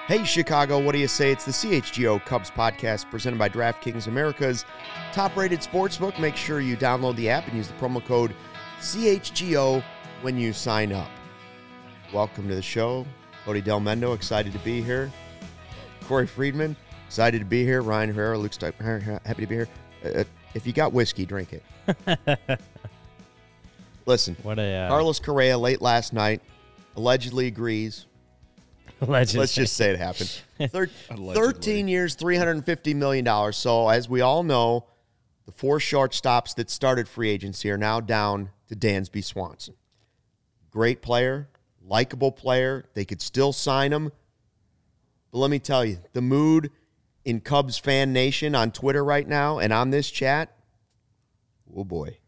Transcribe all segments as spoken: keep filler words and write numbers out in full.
Hey, Chicago, what do you say? It's the C H G O Cubs podcast presented by DraftKings, America's top-rated sportsbook. Make sure you download the app and use the promo code C H G O when you sign up. Welcome to the show. Cody Del Mendo, excited to be here. Corey Friedman, excited to be here. Ryan Herrera, looks like happy to be here. Uh, if you got whiskey, drink it. Listen, what a, uh, Carlos Correa late last night allegedly agrees. Allegedly. Let's just say it happened. Thir- thirteen years, three hundred fifty million dollars. So, as we all know, the four shortstops that started free agency are now down to Dansby Swanson. Great player, likable player. They could still sign him. But let me tell you, the mood in Cubs fan nation on Twitter right now and on this chat, oh boy.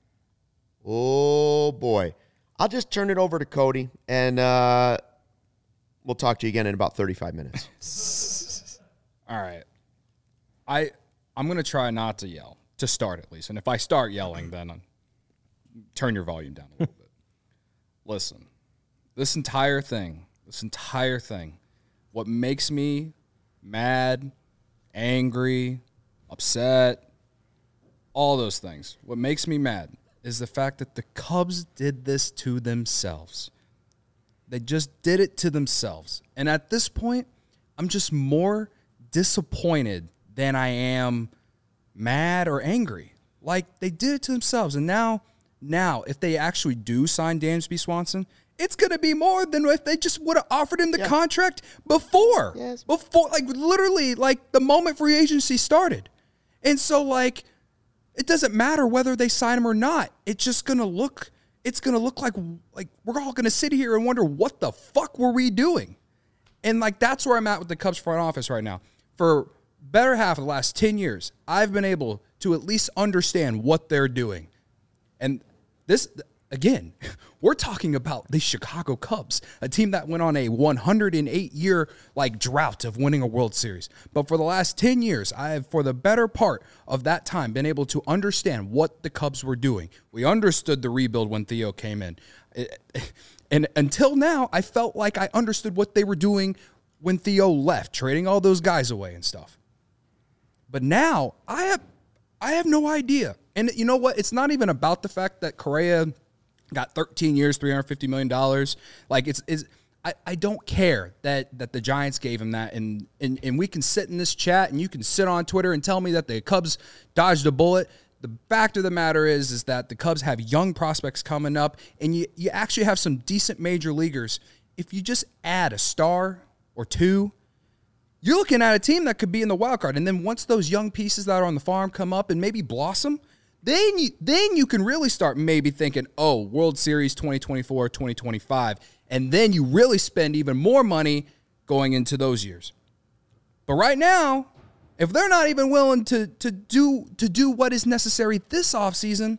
Oh boy. I'll just turn it over to Cody and uh we'll talk to you again in about thirty-five minutes. All right. I, I'm going to try not to yell, to start at least. And if I start yelling, then I'm, turn your volume down a little bit. Listen, this entire thing, this entire thing, what makes me mad, angry, upset, all those things, what makes me mad is the fact that the Cubs did this to themselves. They just did it to themselves. And at this point, I'm just more disappointed than I am mad or angry. Like, they did it to themselves. And now, now, if they actually do sign Dansby Swanson, it's going to be more than if they just would have offered him the yeah. contract before. Yes. Before, like, literally, like, the moment free agency started. And so, like, it doesn't matter whether they sign him or not. It's just going to look... It's going to look like like we're all going to sit here and wonder, what the fuck were we doing? And, like, that's where I'm at with the Cubs front office right now. For better half of the last ten years, I've been able to at least understand what they're doing. And this, again, we're talking about the Chicago Cubs, a team that went on a one hundred eight year, like, drought of winning a World Series. But for the last ten years, I have, for the better part of that time, been able to understand what the Cubs were doing. We understood the rebuild when Theo came in. And until now, I felt like I understood what they were doing when Theo left, trading all those guys away and stuff. But now, I have, I have no idea. And you know what? It's not even about the fact that Correa got thirteen years, three hundred fifty million dollars. Like, it's, it's I, I don't care that, that the Giants gave him that. And, and, and we can sit in this chat and you can sit on Twitter and tell me that the Cubs dodged a bullet. The fact of the matter is, is that the Cubs have young prospects coming up, and you, you actually have some decent major leaguers. If you just add a star or two, you're looking at a team that could be in the wild card. And then once those young pieces that are on the farm come up and maybe blossom, Then you, then you can really start maybe thinking, oh, World Series twenty twenty-four, twenty twenty-five, and then you really spend even more money going into those years. But right now, if they're not even willing to, to, do, to do what is necessary this offseason,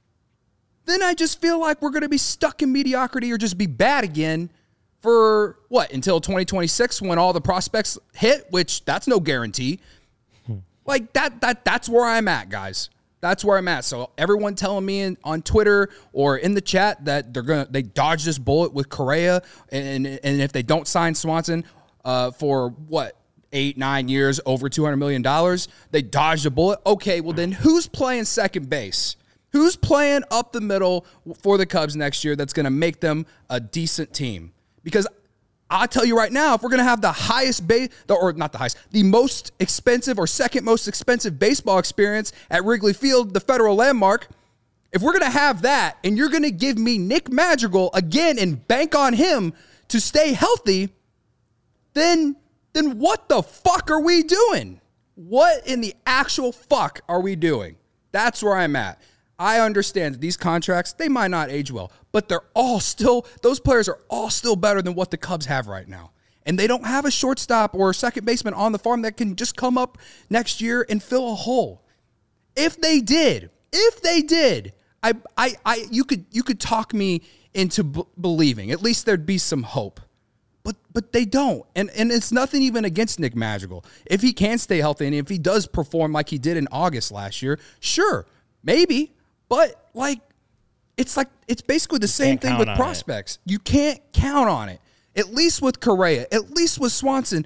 then I just feel like we're going to be stuck in mediocrity or just be bad again for, what, until twenty twenty-six when all the prospects hit, which that's no guarantee. Like, that that that's where I'm at, guys. That's where I'm at. So everyone telling me in, on Twitter or in the chat that they're gonna they dodged this bullet with Correa, and and if they don't sign Swanson uh, for what eight nine years over two hundred million dollars, they dodged a bullet. Okay, well then who's playing second base? Who's playing up the middle for the Cubs next year that's going to make them a decent team? Because I'll tell you right now, if we're going to have the highest base, or not the highest, the most expensive or second most expensive baseball experience at Wrigley Field, the Federal Landmark, if we're going to have that and you're going to give me Nick Madrigal again and bank on him to stay healthy, then, then what the fuck are we doing? What in the actual fuck are we doing? That's where I'm at. I understand that these contracts, they might not age well, but they're all still, those players are all still better than what the Cubs have right now. And they don't have a shortstop or a second baseman on the farm that can just come up next year and fill a hole. If they did, if they did, I, I, I, you could, you could talk me into b- believing. At least there'd be some hope. But but they don't. And and it's nothing even against Nick Madrigal. If he can stay healthy and if he does perform like he did in August last year, sure, maybe. But, like, it's like it's basically the you same thing with prospects. It. You can't count on it. At least with Correa, at least with Swanson,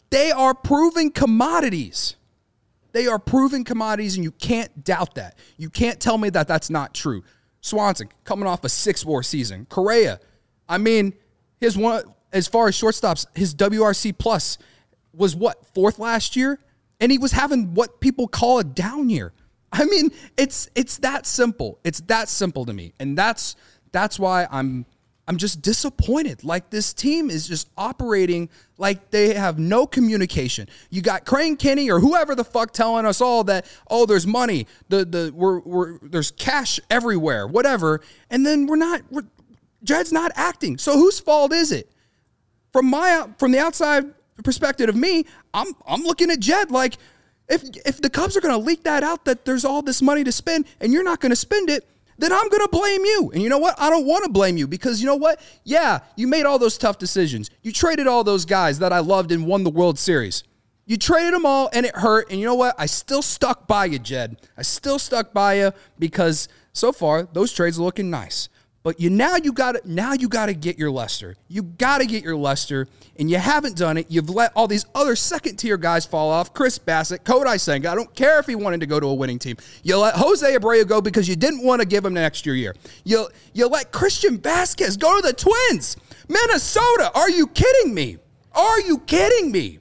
They are proven commodities. They are proven commodities, and you can't doubt that. You can't tell me that that's not true. Swanson, coming off a six-war season. Correa, I mean, his one as far as shortstops, his W R C plus was what, fourth last year? And he was having what people call a down year. I mean, it's it's that simple. It's that simple to me. And that's that's why I'm I'm just disappointed. Like, this team is just operating like they have no communication. You got Crane Kenny or whoever the fuck telling us all that, oh, there's money, the the we're we're there's cash everywhere, whatever. And then we're not we're, Jed's not acting. So whose fault is it? From my from the outside perspective of me, I'm I'm looking at Jed like, if if the Cubs are going to leak that out that there's all this money to spend and you're not going to spend it, then I'm going to blame you. And you know what? I don't want to blame you because you know what? Yeah, you made all those tough decisions. You traded all those guys that I loved and won the World Series. You traded them all and it hurt. And you know what? I still stuck by you, Jed. I still stuck by you because so far those trades are looking nice. But you now you got to now you got to get your Lester. You got to get your Lester, and you haven't done it. You've let all these other second-tier guys fall off. Chris Bassett, Kodai Senga. I don't care if he wanted to go to a winning team. You let Jose Abreu go because you didn't want to give him an extra year. You you let Christian Vasquez go to the Twins, Minnesota. Are you kidding me? Are you kidding me?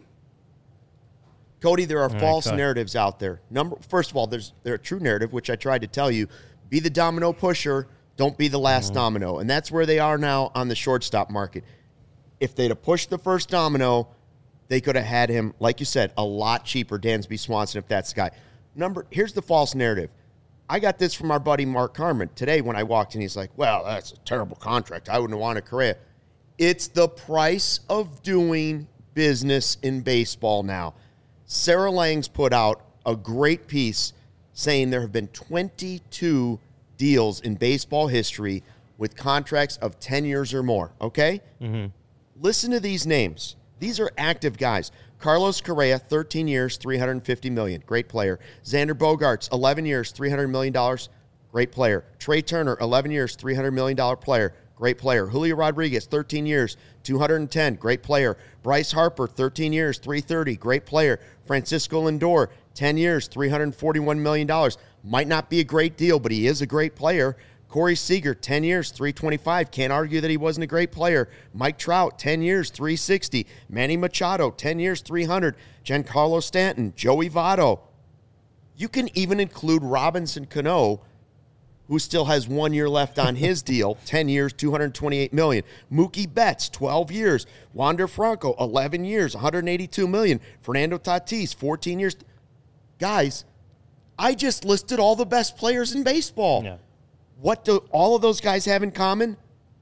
Cody, there are All false right, narratives out there. Number first of all, there's there's a true narrative which I tried to tell you: be the domino pusher. Don't be the last mm-hmm. domino. And that's where they are now on the shortstop market. If they'd have pushed the first domino, they could have had him, like you said, a lot cheaper, Dansby Swanson, if that's the guy. Number, here's the false narrative. I got this from our buddy Mark Carmen today when I walked in. He's like, well, that's a terrible contract. I wouldn't want a Correa. It's the price of doing business in baseball now. Sarah Lang's put out a great piece saying there have been twenty-two deals in baseball history with contracts of ten years or more, okay? Mm-hmm. Listen to these names. These are active guys. Carlos Correa, thirteen years, three hundred fifty million dollars, great player. Xander Bogaerts, eleven years, three hundred million dollars, great player. Trey Turner, eleven years, three hundred million dollars player, great player. Julio Rodriguez, thirteen years, two hundred ten, great player. Bryce Harper, thirteen years, three hundred thirty, great player. Francisco Lindor, ten years, three hundred forty-one million dollars. Might not be a great deal, but he is a great player. Corey Seager, ten years, three hundred twenty-five. Can't argue that he wasn't a great player. Mike Trout, ten years, three hundred sixty. Manny Machado, ten years, three hundred. Giancarlo Stanton, Joey Votto. You can even include Robinson Cano, who still has one year left on his deal, ten years, two hundred twenty-eight million dollars. Mookie Betts, twelve years. Wander Franco, eleven years, one hundred eighty-two million dollars. Fernando Tatis, fourteen years. Guys, I just listed all the best players in baseball. Yeah. What do all of those guys have in common?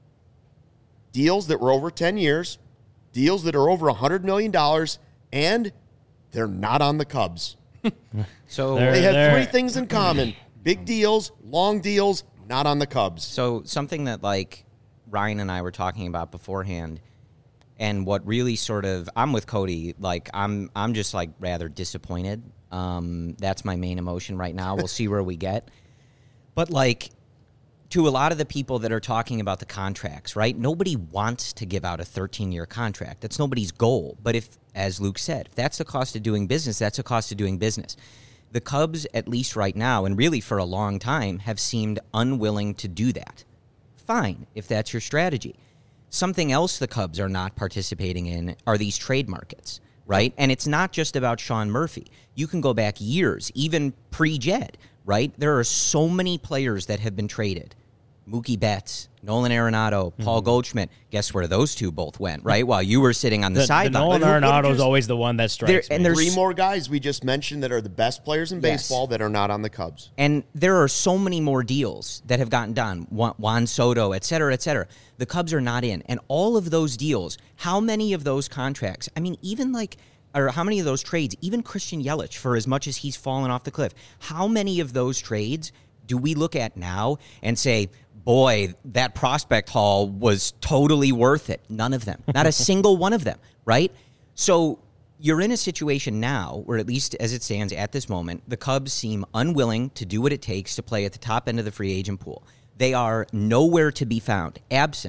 Deals that were over ten years, deals that are over one hundred million dollars, and they're not on the Cubs. So they have three things in common. Big deals, long deals, not on the Cubs. So something that, like, Ryan and I were talking about beforehand, and what really sort of, I'm with Cody, like, I'm I'm just, like, rather disappointed. Um, that's my main emotion right now. We'll see where we get. But, like, to a lot of the people that are talking about the contracts, right, nobody wants to give out a thirteen-year contract. That's nobody's goal. But if, as Luke said, if that's the cost of doing business, that's the cost of doing business. The Cubs, at least right now, and really for a long time, have seemed unwilling to do that. Fine, if that's your strategy. Something else the Cubs are not participating in are these trade markets, right? And it's not just about Sean Murphy. You can go back years, even pre-Jed, right? There are so many players that have been traded. Mookie Betts, Nolan Arenado, Paul mm-hmm. Goldschmidt. Guess where those two both went, right? While you were sitting on the, the sideline. Nolan Arenado is always the one that strikes there, and me. There's three more guys we just mentioned that are the best players in baseball yes. that are not on the Cubs. And there are so many more deals that have gotten done. Juan Soto, et cetera, et cetera. The Cubs are not in. And all of those deals, how many of those contracts, I mean, even like, or how many of those trades, even Christian Yelich, for as much as he's fallen off the cliff, how many of those trades do we look at now and say, boy, that prospect haul was totally worth it? None of them. Not a single one of them, right? So you're in a situation now where, at least as it stands at this moment, the Cubs seem unwilling to do what it takes to play at the top end of the free agent pool. They are nowhere to be found, absent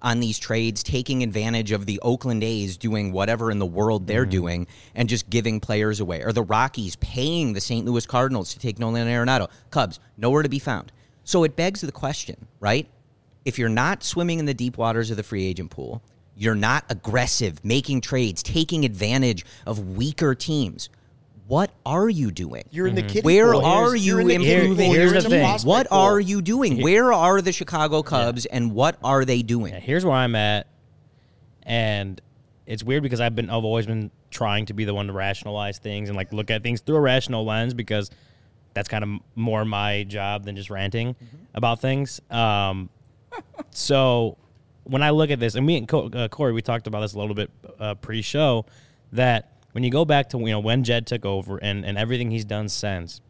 on these trades, taking advantage of the Oakland A's doing whatever in the world they're mm-hmm. doing and just giving players away. Or the Rockies paying the Saint Louis Cardinals to take Nolan Arenado. Cubs, nowhere to be found. So it begs the question, right? If you're not swimming in the deep waters of the free agent pool, you're not aggressive, making trades, taking advantage of weaker teams, what are you doing? You're in the kiddie Where pool. are you in the improving? Pool. Here's the thing. What pool. are you doing? Where are the Chicago Cubs, yeah. and what are they doing? Yeah, here's where I'm at, and it's weird because I've been I've always been trying to be the one to rationalize things and like look at things through a rational lens because that's kind of more my job than just ranting mm-hmm. about things. Um, so when I look at this, and me and Co- uh, Corey, we talked about this a little bit uh, pre-show, that when you go back to you know when Jed took over and, and everything he's done since,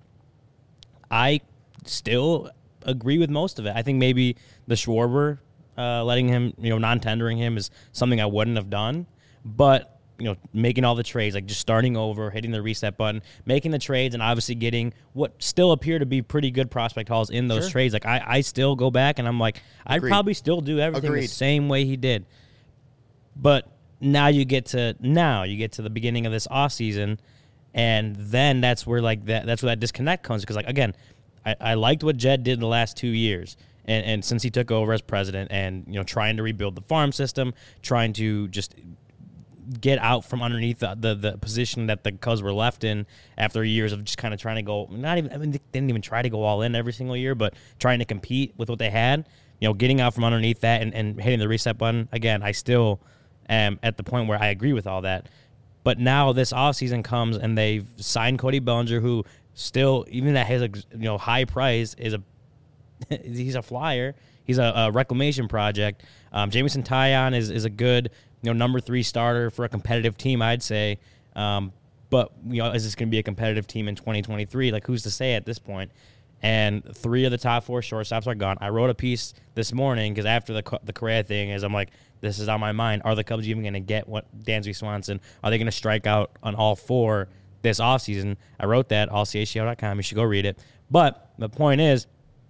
I still agree with most of it. I think maybe the Schwarber uh, letting him, you know, non-tendering him is something I wouldn't have done. But, you know, making all the trades, like just starting over, hitting the reset button, making the trades, and obviously getting what still appear to be pretty good prospect hauls in those sure. trades. Like, I, I still go back and I'm like, Agreed. I'd probably still do everything Agreed. the same way he did. But now you get to now you get to the beginning of this offseason, and then that's where like that that's where that disconnect comes because like again, I, I liked what Jed did in the last two years, and, and since he took over as president, and you know trying to rebuild the farm system, trying to just get out from underneath the the, the position that the Cubs were left in after years of just kind of trying to go not even I mean they didn't even try to go all in every single year, but trying to compete with what they had, you know, getting out from underneath that and, and hitting the reset button again. I still. Um, at the point where I agree with all that. But now this offseason comes and they've signed Cody Bellinger, who still, even at his you know high price, is a he's a flyer. He's a, a reclamation project. Um, Jameson Taillon is is a good you know number three starter for a competitive team, I'd say. Um, but you know, is this going to be a competitive team in twenty twenty-three? Like, who's to say at this point? And three of the top four shortstops are gone. I wrote a piece this morning because after the the Correa thing, is I'm like, this is on my mind. Are the Cubs even going to get what Dansby Swanson? Are they going to strike out on all four this offseason? I wrote that, all c h c o dot com. You should go read it. But the point is,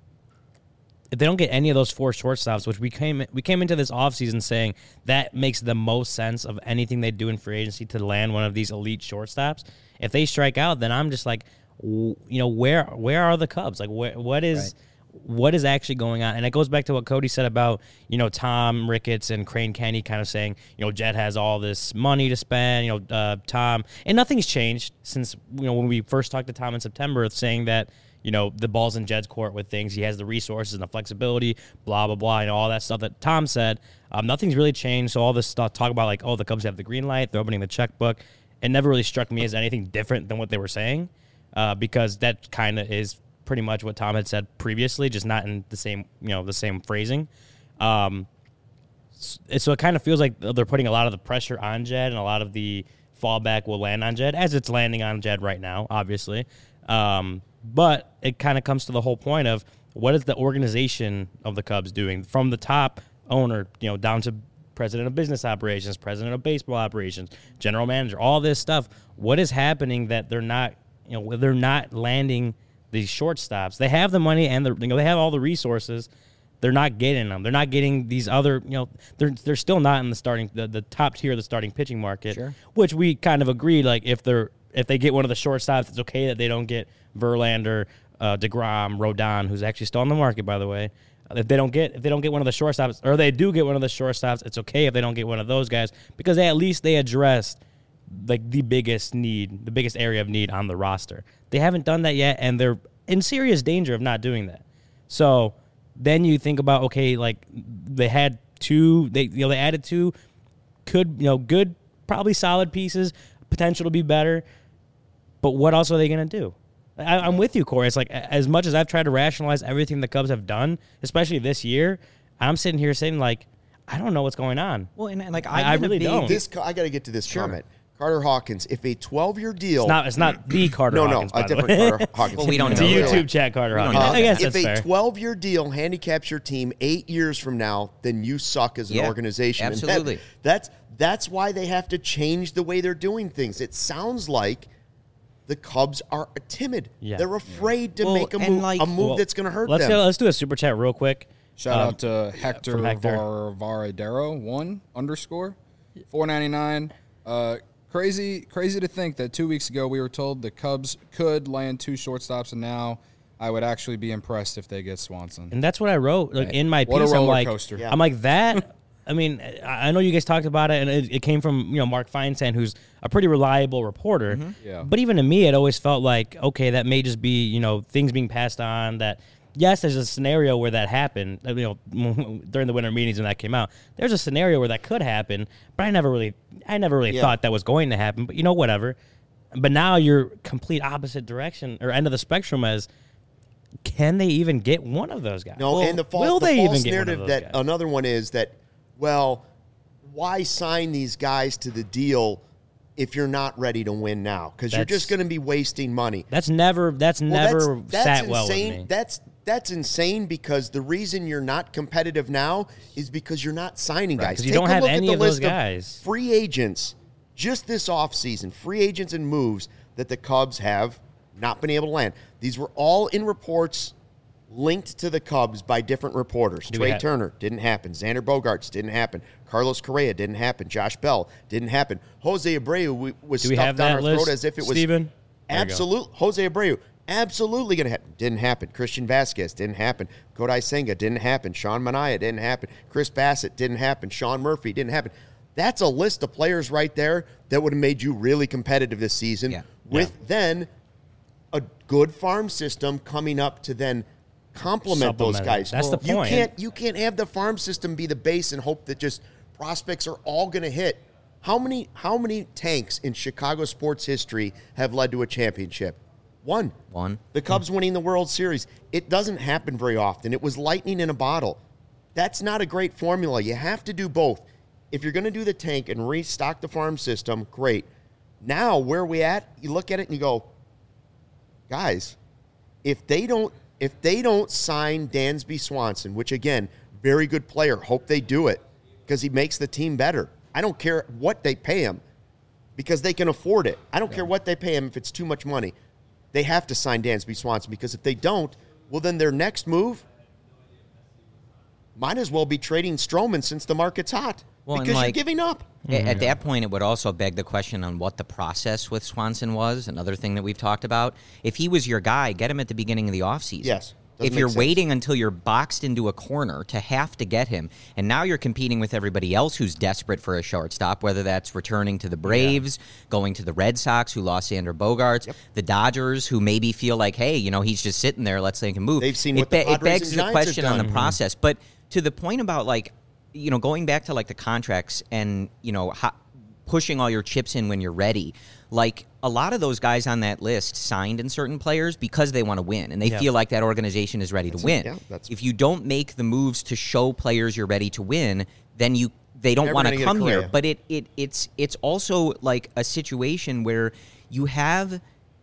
if they don't get any of those four shortstops, which we came we came into this offseason saying that makes the most sense of anything they do in free agency to land one of these elite shortstops. If they strike out, then I'm just like, you know, where where are the Cubs? Like, where, what is right. what is actually going on? And it goes back to what Cody said about, you know, Tom Ricketts and Crane Kenny kind of saying, you know, Jed has all this money to spend, you know, uh, Tom. And nothing's changed since, you know, when we first talked to Tom in September, saying that, you know, the ball's in Jed's court with things. He has the resources and the flexibility, blah, blah, blah, and all that stuff that Tom said. Um, nothing's really changed. So all this stuff, talk about like, oh, the Cubs have the green light, they're opening the checkbook. It never really struck me as anything different than what they were saying. Uh, because that kind of is pretty much what Tom had said previously, just not in the same, you know, the same phrasing. Um, so it kind of feels like they're putting a lot of the pressure on Jed, and a lot of the fallback will land on Jed, as it's landing on Jed right now, obviously. Um, but it kind of comes to the whole point of what is the organization of the Cubs doing from the top owner, you know, down to president of business operations, president of baseball operations, general manager, all this stuff. What is happening that they're not, you know, they're not landing these shortstops? They have the money and the, you know, they have all the resources. They're not getting them. They're not getting these other, you know, they're they're still not in the starting, the, the top tier of the starting pitching market, sure. Which we kind of agreed, like if they're if they get one of the shortstops, it's okay that they don't get Verlander, uh, DeGrom, Rodon, who's actually still on the market, by the way. If they don't get if they don't get one of the shortstops, or they do get one of the shortstops, it's okay if they don't get one of those guys, because they, at least they addressed like the biggest need, the biggest area of need on the roster. They haven't done that yet, and they're in serious danger of not doing that. So then you think about, okay, like they had two, they you know they added two, could you know good, probably solid pieces, potential to be better, but what else are they going to do? I, I'm with you, Corey. It's like, as much as I've tried to rationalize everything the Cubs have done, especially this year, I'm sitting here saying like, I don't know what's going on. Well, and like I, I really don't. This I got to get to this sure. comment. Carter Hawkins, if a twelve-year deal... It's not, it's not the Carter no, Hawkins, No, no, a different Carter Hawkins. Well, we don't it's know. It's a YouTube chat Carter Hawkins. Uh, I guess if that's a fair. twelve-year deal handicaps your team eight years from now, then you suck as an yeah, organization. Absolutely. And that, that's, that's why they have to change the way they're doing things. It sounds like the Cubs are timid. Yeah. They're afraid to well, make a move, like, a move well, that's going to hurt let's them. Go, let's do a super chat real quick. Shout Um, out to Hector, Hector. Var, Varadero, one underscore, four ninety-nine. Uh, crazy, crazy to think that two weeks ago we were told the Cubs could land two shortstops, and now I would actually be impressed if they get Swanson. And that's what I wrote like, in my piece. What a roller I'm like, coaster. I'm like that. I mean, I know you guys talked about it, and it, it came from you know Mark Feinsand, who's a pretty reliable reporter. Mm-hmm. Yeah. But even to me, it always felt like, okay, that may just be you know things being passed on. That yes, there's a scenario where that happened. You know, during the winter meetings when that came out, there's a scenario where that could happen. But I never really, I never really Yeah. thought that was going to happen. But you know, whatever. But now you're complete opposite direction or end of the spectrum as. Can they even get one of those guys? No, Well, and the, fal- will the they false even get one of narrative those that guys? another one is that, well, why sign these guys to the deal if you're not ready to win now? Because you're That's- just going to be wasting money. That's never. That's Well, never that's, that's sat insane. well with me. That's that's insane because the reason you're not competitive now is because you're not signing guys. 'cause you Take don't a have look at any the of those list guys. free agents just this offseason, free agents and moves that the Cubs have not been able to land. These were all in reports linked to the Cubs by different reporters. Do we Trey have- Turner didn't happen. Xander Bogaerts didn't happen. Carlos Correa didn't happen. Josh Bell didn't happen. Jose Abreu we- was Do we stuffed have down that our list, throat as if it was Steven? There you go. absolute. Jose Abreu absolutely going to happen. Didn't happen. Christian Vasquez didn't happen. Kodai Senga didn't happen. Sean Manaea didn't happen. Chris Bassett didn't happen. Sean Murphy didn't happen. That's a list of players right there that would have made you really competitive this season Yeah. with then a good farm system coming up to then complement those Supplement it. guys. That's the you point. Can't, you can't have the farm system be the base and hope that just prospects are all going to hit. How many how many tanks in Chicago sports history have led to a championship? One. One. The Cubs winning the World Series. It doesn't happen very often. It was lightning in a bottle. That's not a great formula. You have to do both. If you're going to do the tank and restock the farm system, great. Now, where are we at? You look at it and you go, guys, if they don't if they don't sign Dansby Swanson, which again, very good player, hope they do it because he makes the team better. I don't care what they pay him because they can afford it. I don't yeah. care what they pay him if it's too much money. They have to sign Dansby Swanson because if they don't, well, then their next move might as well be trading Stroman since the market's hot well, because like, you're giving up. At, at that point, it would also beg the question on what the process with Swanson was, another thing that we've talked about. If he was your guy, get him at the beginning of the offseason. Yes. If you're waiting until you're boxed into a corner to have to get him, and now you're competing with everybody else who's desperate for a shortstop, whether that's returning to the Braves, yeah. going to the Red Sox, who lost Xander Bogaerts, yep. the Dodgers, who maybe feel like, hey, you know, he's just sitting there, let's make him move. They've seen it what the be- Padres It begs and the Giants question have on done. the process. But to the point about, like, you know, going back to, like, the contracts and, you know, how, pushing all your chips in when you're ready, like, a lot of those guys on that list signed in certain players because they want to win, and they yeah. feel like that organization is ready that's to win. A, yeah, that's if you don't make the moves to show players you're ready to win, then you they don't want to come here. But it, it it's it's also like a situation where you have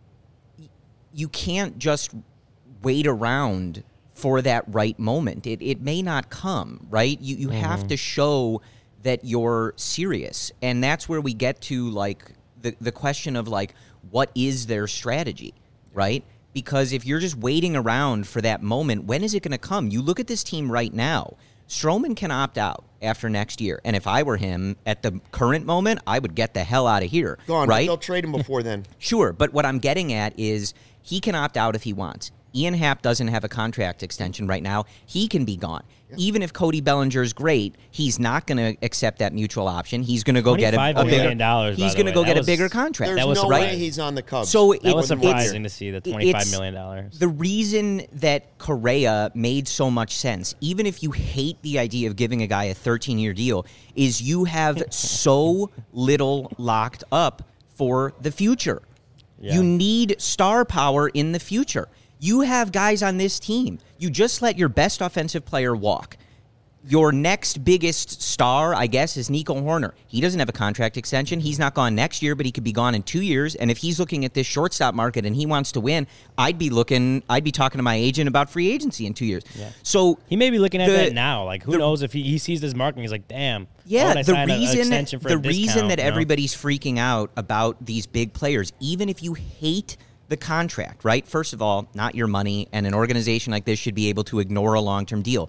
you can't just wait around for that right moment. It it may not come, right? You you mm-hmm. have to show that you're serious, and that's where we get to like the the question of like what is their strategy, right? Because if you're just waiting around for that moment, when is it going to come? You look at this team right now. Stroman can opt out after next year, and if I were him at the current moment, I would get the hell out of here. Gone, right? They'll trade him before then. Sure, but what I'm getting at is he can opt out if he wants. Ian Happ doesn't have a contract extension right now. He can be gone. Yeah. Even if Cody Bellinger's great, he's not going to accept that mutual option. He's going to go get a, a bigger dollars. He's going to go that get was, a bigger contract. There's that was no right. way he's on the Cubs. So that it, was surprising it's, to see the twenty-five million dollars. The reason that Correa made so much sense, even if you hate the idea of giving a guy a thirteen-year deal, is you have so little locked up for the future. Yeah. You need star power in the future. You have guys on this team. You just let your best offensive player walk. Your next biggest star, I guess, is Nico Horner. He doesn't have a contract extension. He's not gone next year, but he could be gone in two years. And if he's looking at this shortstop market and he wants to win, I'd be looking, I'd be talking to my agent about free agency in two years. Yeah. So he may be looking at the, that now. Like, who the, knows if he, he sees this market and he's like, damn. Yeah, the reason, a, a the reason that you know? everybody's freaking out about these big players, even if you hate the contract, right? First of all, not your money, and an organization like this should be able to ignore a long-term deal.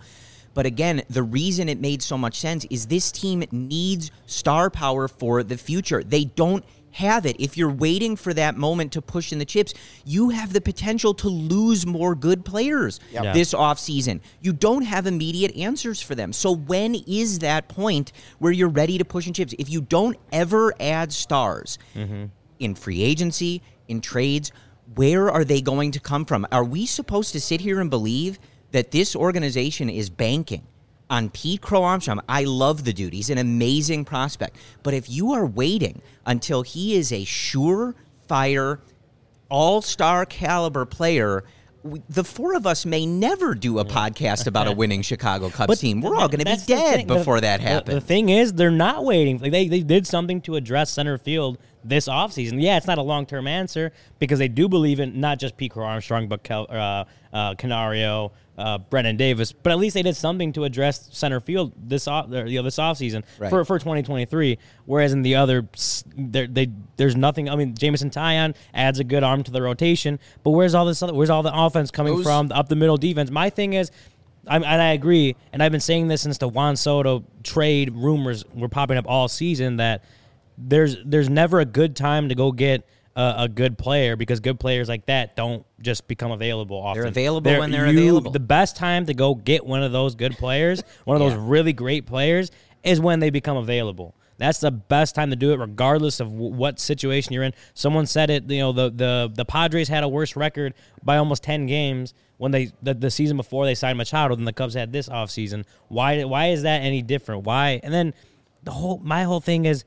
But again, the reason it made so much sense is this team needs star power for the future. They don't have it. If you're waiting for that moment to push in the chips, you have the potential to lose more good players yep. yeah. this offseason. You don't have immediate answers for them. So when is that point where you're ready to push in chips? If you don't ever add stars mm-hmm. in free agency, in trades, where are they going to come from? Are we supposed to sit here and believe that this organization is banking on Pete Crow Armstrong? I love the dude. He's an amazing prospect. But if you are waiting until he is a surefire, all-star caliber player, we, the four of us may never do a podcast about a winning Chicago Cubs but team. We're all going to be dead before the, that happens. The, the thing is, they're not waiting. Like they, they did something to address center field this offseason. Yeah, it's not a long-term answer because they do believe in not just Pete Crow Armstrong, but Kel, uh, uh, Canario, Uh, Brennan Davis, but at least they did something to address center field this off, you know, this offseason right. for for twenty twenty-three. Whereas in the other, they there's nothing. I mean, Jameson Taillon adds a good arm to the rotation, but where's all this other? Where's all the offense coming Those, from? Up the middle defense. My thing is, I'm, and I agree, and I've been saying this since the Juan Soto trade rumors were popping up all season that there's there's never a good time to go get a, a good player because good players like that don't just become available often. They're available they're, when they're you, available. The best time to go get one of those good players, one of yeah. those really great players, is when they become available. That's the best time to do it, regardless of w- what situation you're in. Someone said it. You know, the the the Padres had a worse record by almost ten games when they the, the season before they signed Machado than the Cubs had this offseason. Why why is that any different? Why? And then the whole my whole thing is,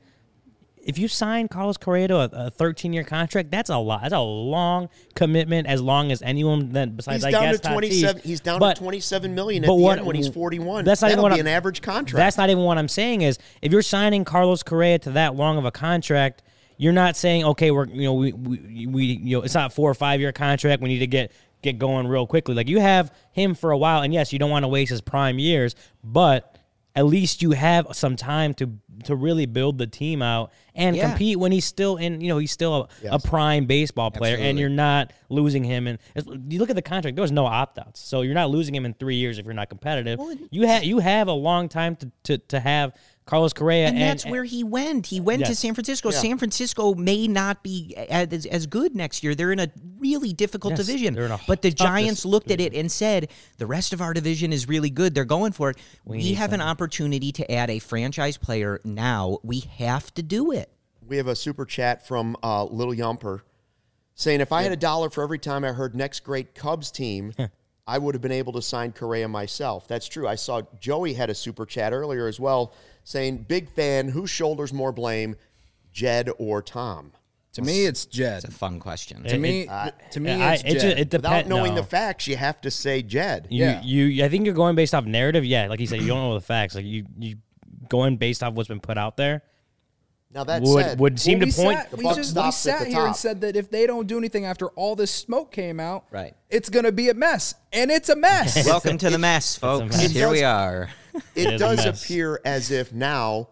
if you sign Carlos Correa to a thirteen-year contract, that's a lot. That's a long commitment, as long as anyone that besides he's I down guess to twenty-seven. He's down but, to twenty-seven million at the what, end when he's forty-one. That's not That'll even what be I'm, an average contract. That's not even what I'm saying. Is if you're signing Carlos Correa to that long of a contract, you're not saying okay, we're you know we we, we you know it's not a four or five year contract. We need to get get going real quickly. Like you have him for a while, and yes, you don't want to waste his prime years, but at least you have some time to to really build the team out and yeah. compete when he's still in, you know, he's still a, yes. a prime baseball player. Absolutely. And you're not losing him. And you look at the contract, there was no opt-outs. So you're not losing him in three years if you're not competitive. Well, you, ha- you have a long time to, to, to have Carlos Correa. And, and that's and, where he went. He went yes. to San Francisco. Yeah. San Francisco may not be as, as good next year. They're in a really difficult yes, division. But the Giants looked division. at it and said, the rest of our division is really good. They're going for it. We, we have something. an opportunity to add a franchise player now. We have to do it. We have a super chat from uh, Little Yumper saying, if I had a dollar for every time I heard next great Cubs team, I would have been able to sign Correa myself. That's true. I saw Joey had a super chat earlier as well saying, big fan, who shoulders more blame, Jed or Tom? To me, it's Jed. It's a fun question. To it, me, uh, to me, I, it's it Jed. Just, it Without depend, knowing no. the facts, you have to say Jed. You, yeah. you, I think you're going based off narrative. Yeah, like you said, you don't know the facts. Like you, you going based off what's been put out there. Now that would, said, would seem well, to point. Sat, we just we sat here and said that if they don't do anything after all this smoke came out, right. it's going to be a mess, and it's a mess. Welcome to the mess, folks. Mess. Here does, we are. It, it does appear as if now,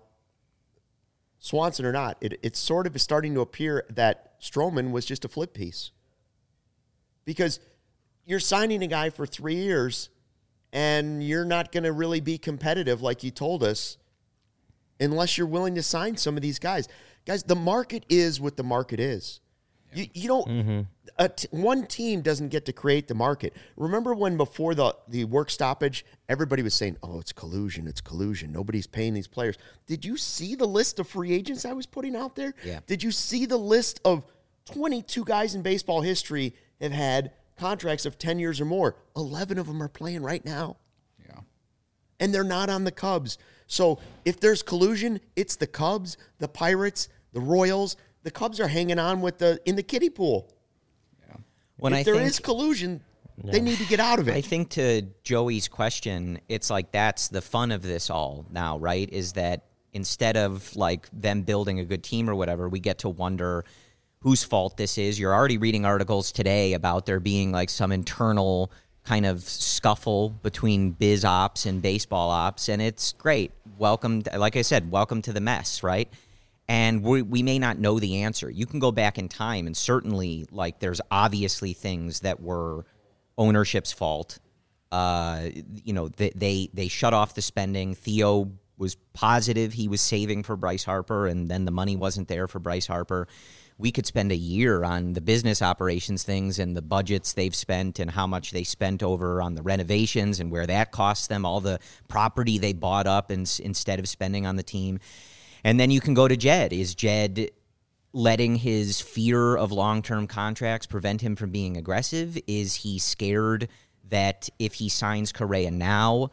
Swanson or not, it, it's sort of starting to appear that Stroman was just a flip piece, because you're signing a guy for three years, and you're not going to really be competitive like you told us, unless you're willing to sign some of these guys. Guys, the market is what the market is. You, you don't mm-hmm. a t- one team doesn't get to create the market. Remember when before the, the work stoppage, everybody was saying, oh, it's collusion, it's collusion. Nobody's paying these players. Did you see the list of free agents I was putting out there? Yeah. Did you see the list of twenty-two guys in baseball history have had contracts of ten years or more? eleven of them are playing right now. Yeah. And they're not on the Cubs. So if there's collusion, it's the Cubs, the Pirates, the Royals. The Cubs are hanging on with the in the kiddie pool. Yeah. When if I there think, is collusion, yeah. they need to get out of it. I think to Joey's question, it's like that's the fun of this all now, right? Is that instead of like them building a good team or whatever, we get to wonder whose fault this is. You're already reading articles today about there being like some internal kind of scuffle between biz ops and baseball ops, and it's great. Welcome, like I said, welcome to the mess, right? And we we may not know the answer. You can go back in time, and certainly, like, there's obviously things that were ownership's fault Uh, you know, they, they they shut off the spending. Theo was positive he was saving for Bryce Harper, and then the money wasn't there for Bryce Harper. We could spend a year on the business operations things and the budgets they've spent and how much they spent over on the renovations and where that costs them, all the property they bought up in, instead of spending on the team. And then you can go to Jed. Is Jed letting his fear of long-term contracts prevent him from being aggressive? Is he scared that if he signs Correa now,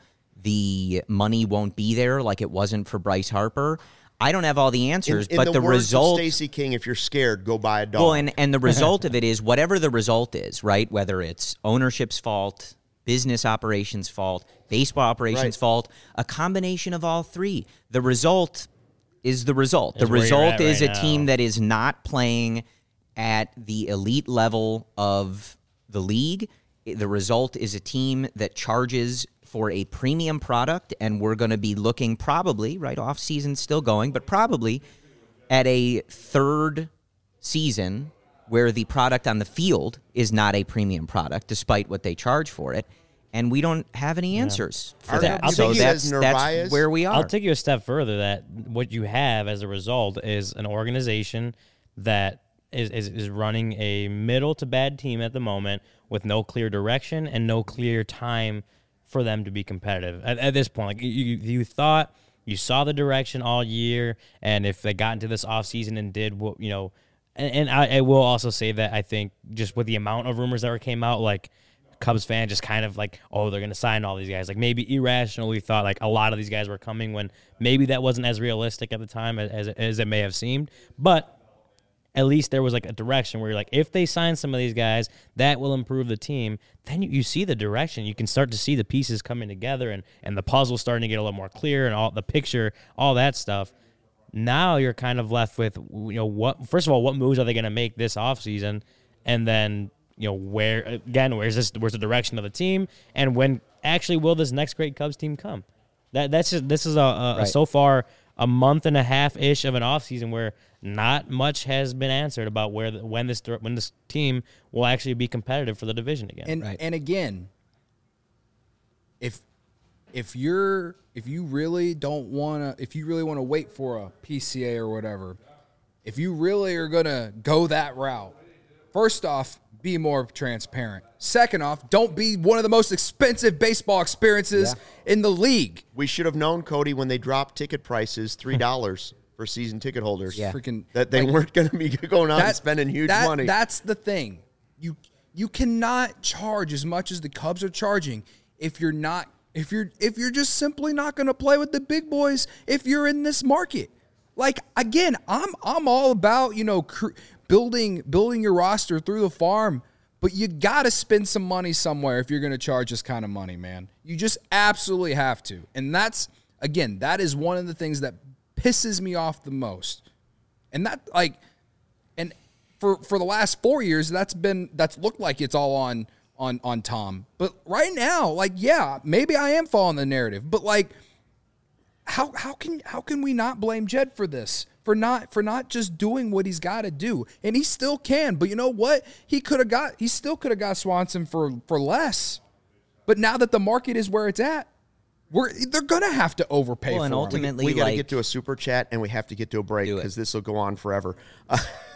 the money won't be there like it wasn't for Bryce Harper? I don't have all the answers, in, in but the, the words result. of Stacey King, if you're scared, go buy a dog. Well, and, and the result of it is whatever the result is, right? Whether it's ownership's fault, business operations fault, baseball operations right. fault, a combination of all three. The result is the result. Is the result is right a now. team that is not playing at the elite level of the league. The result is a team that charges for a premium product, and we're going to be looking probably, right, off season still going, but probably at a third season where the product on the field is not a premium product, despite what they charge for it, and we don't have any answers yeah. for Are that. there, So that's, that's that's where we are. I'll take you a step further. That what you have as a result is an organization that is, is, is running a middle to bad team at the moment with no clear direction and no clear time for them to be competitive at, at this point. Like you, you thought you saw the direction all year, and if they got into this offseason and did what, you know, and, and I, I will also say that I think just with the amount of rumors that were came out, like Cubs fan just kind of like, oh, they're going to sign all these guys. Like maybe irrationally thought like a lot of these guys were coming when maybe that wasn't as realistic at the time as, as it may have seemed. But at least there was like a direction where you're like, if they sign some of these guys, that will improve the team. Then you, you see the direction. You can start to see the pieces coming together and, and the puzzle starting to get a little more clear and all the picture, all that stuff. Now you're kind of left with, you know, what, first of all, what moves are they going to make this offseason? And then, you know, where, again, where's this, where's the direction of the team? And when actually will this next great Cubs team come? That That's just, this is a, a, right. a so far a month and a half-ish of an offseason where not much has been answered about where the, when this when this team will actually be competitive for the division again. And Right. and again, if if you're if you really don't want to if you really want to wait for a P C A or whatever, if you really are going to go that route, first off, be more transparent. Second off, don't be one of the most expensive baseball experiences yeah. in the league. We should have known, Cody, when they dropped ticket prices three dollars for season ticket holders. Yeah. Freaking, that they like, weren't going to be going out that, and spending huge that, money. That's the thing. You you cannot charge as much as the Cubs are charging if you're not if you're if you're just simply not going to play with the big boys if you're in this market. Like again, I'm I'm all about, you know, cr- building building your roster through the farm. But you got to spend some money somewhere if you're going to charge this kind of money, man. You just absolutely have to. And that's, again, that is one of the things that pisses me off the most. And that, like, and for for the last four years, that's been, that's looked like it's all on, on, on Tom. But right now, like, yeah, maybe I am following the narrative. But, like, how how can how can we not blame Jed for this? For not for not just doing what he's got to do, and he still can. But you know what? He could have got. He still could have got Swanson for for less. But now that the market is where it's at, we're they're gonna have to overpay. Well, for and him. ultimately, we got to like, get to a super chat, and we have to get to a break Do it. because this will go on forever. Uh,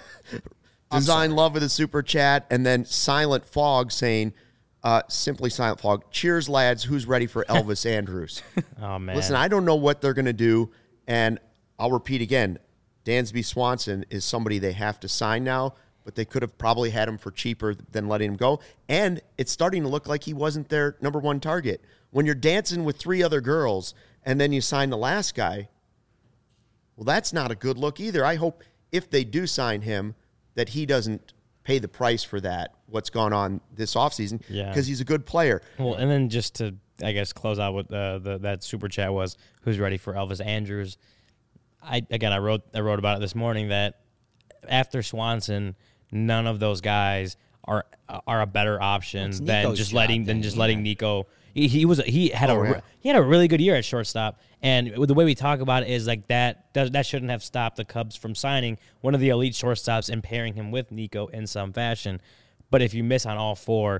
Design love with a super chat, and then Silent Fog saying, uh, simply Silent Fog, cheers, lads. Who's ready for Elvis Andrus? Oh, man. Listen, I don't know what they're going to do, and I'll repeat again. Dansby Swanson is somebody they have to sign now, but they could have probably had him for cheaper than letting him go. And it's starting to look like he wasn't their number one target. When you're dancing with three other girls and then you sign the last guy, well, that's not a good look either. I hope if they do sign him that he doesn't pay the price for that, what's gone on this offseason, Yeah. because he's a good player. Well, and then just to, I guess, close out what uh, the, that super chat was, who's ready for Elvis Andrus? I again, I wrote I wrote about it this morning that after Swanson, none of those guys are are a better option Well, than Nico's just job letting then, than just yeah. letting Nico. He, he was he had Oh, a yeah. he had a really good year at shortstop, and the way we talk about it is like that that, that shouldn't have stopped the Cubs from signing one of the elite shortstops and pairing him with Nico in some fashion. But if you miss on all four,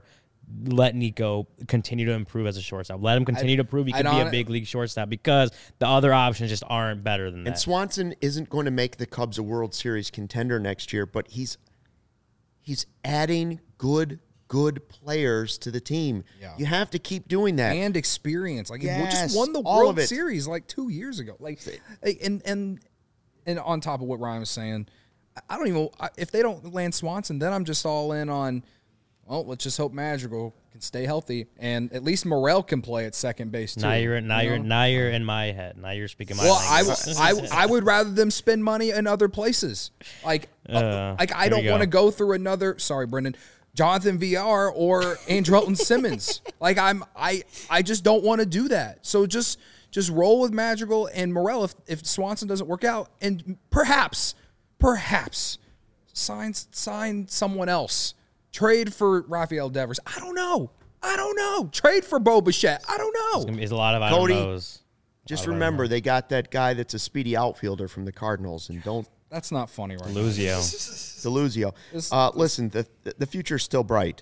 let Nico continue to improve as a shortstop. Let him continue I, to prove he can be a big league shortstop because the other options just aren't better than that. And Swanson isn't going to make the Cubs a World Series contender next year, but he's he's adding good good players to the team. Yeah. You have to keep doing that. And experience. Like yes, we just won the World Series like two years ago. Like and and and on top of what Ryan was saying, I don't even if they don't land Swanson, then I'm just all in on well, let's just hope Madrigal can stay healthy, and at least Morel can play at second base too. Now you're now you are now you're in my head. Now you're speaking my well, language. I, I I would rather them spend money in other places. Like uh, like I don't want to go through another. Sorry, Brendan. Jonathan V R or Andrelton Simmons. Like I'm I I just don't want to do that. So just just roll with Madrigal and Morel if if Swanson doesn't work out, and perhaps perhaps sign sign someone else. Trade for Rafael Devers. I don't know. I don't know. Trade for Bo Bichette. I don't know. There's a lot of I don't Cody, knows. Just remember, they got that guy that's a speedy outfielder from the Cardinals, and don't. That's not funny, right? Deluzio. Deluzio. Uh, listen, the the future's still bright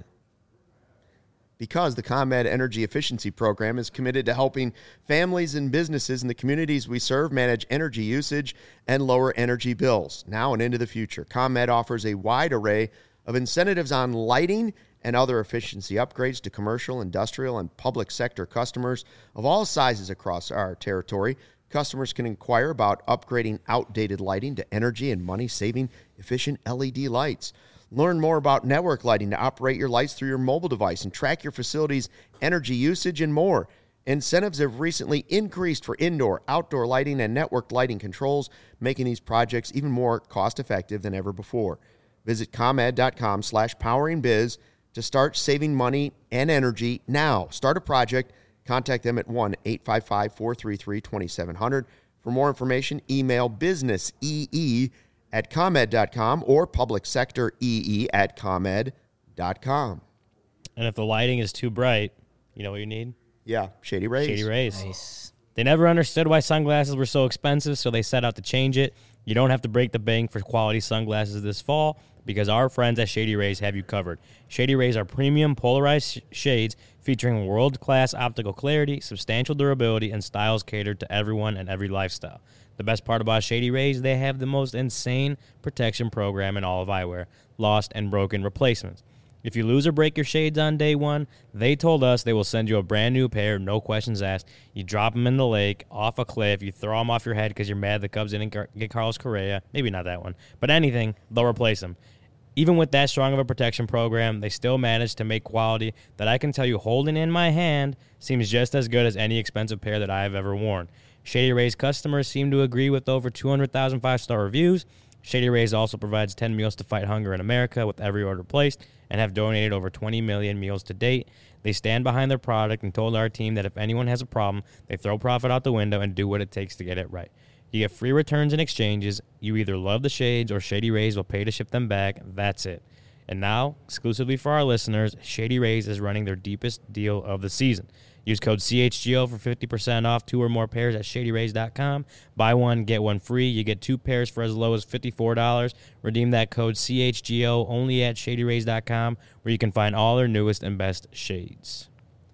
because the ComEd Energy Efficiency Program is committed to helping families and businesses in the communities we serve manage energy usage and lower energy bills now and into the future. ComEd offers a wide array of incentives on lighting and other efficiency upgrades to commercial, industrial, and public sector customers of all sizes across our territory. Customers can inquire about upgrading outdated lighting to energy and money-saving efficient L E D lights. Learn more about network lighting to operate your lights through your mobile device and track your facility's energy usage and more. Incentives have recently increased for indoor, outdoor lighting, and network lighting controls, making these projects even more cost-effective than ever before. Visit ComEd.com slash poweringbiz to start saving money and energy now. Start a project. Contact them at one eight five five, four three three, two seven zero zero. For more information, email businessee at ComEd dot com or publicsectoree at ComEd dot com. And if the lighting is too bright, you know what you need? Yeah, Shady Rays. Shady Rays. Nice. They never understood why sunglasses were so expensive, so they set out to change it. You don't have to break the bank for quality sunglasses this fall because our friends at Shady Rays have you covered. Shady Rays are premium polarized sh- shades featuring world-class optical clarity, substantial durability, and styles catered to everyone and every lifestyle. The best part about Shady Rays, they have the most insane protection program in all of eyewear, lost and broken replacements. If you lose or break your shades on day one, they told us they will send you a brand new pair, no questions asked. You drop them in the lake, off a cliff, you throw them off your head because you're mad the Cubs didn't get Carlos Correa. Maybe not that one, but anything, they'll replace them. Even with that strong of a protection program, they still managed to make quality that I can tell you holding in my hand seems just as good as any expensive pair that I have ever worn. Shady Rays customers seem to agree with over two hundred thousand five-star reviews. Shady Rays also provides ten meals to fight hunger in America with every order placed and have donated over twenty million meals to date. They stand behind their product and told our team that if anyone has a problem, they throw profit out the window and do what it takes to get it right. You get free returns and exchanges. You either love the shades or Shady Rays will pay to ship them back. That's it. And now, exclusively for our listeners, Shady Rays is running their deepest deal of the season. Use code C H G O for fifty percent off two or more pairs at shady rays dot com. Buy one, get one free. You get two pairs for as low as fifty-four dollars. Redeem that code C H G O only at shady rays dot com, where you can find all their newest and best shades.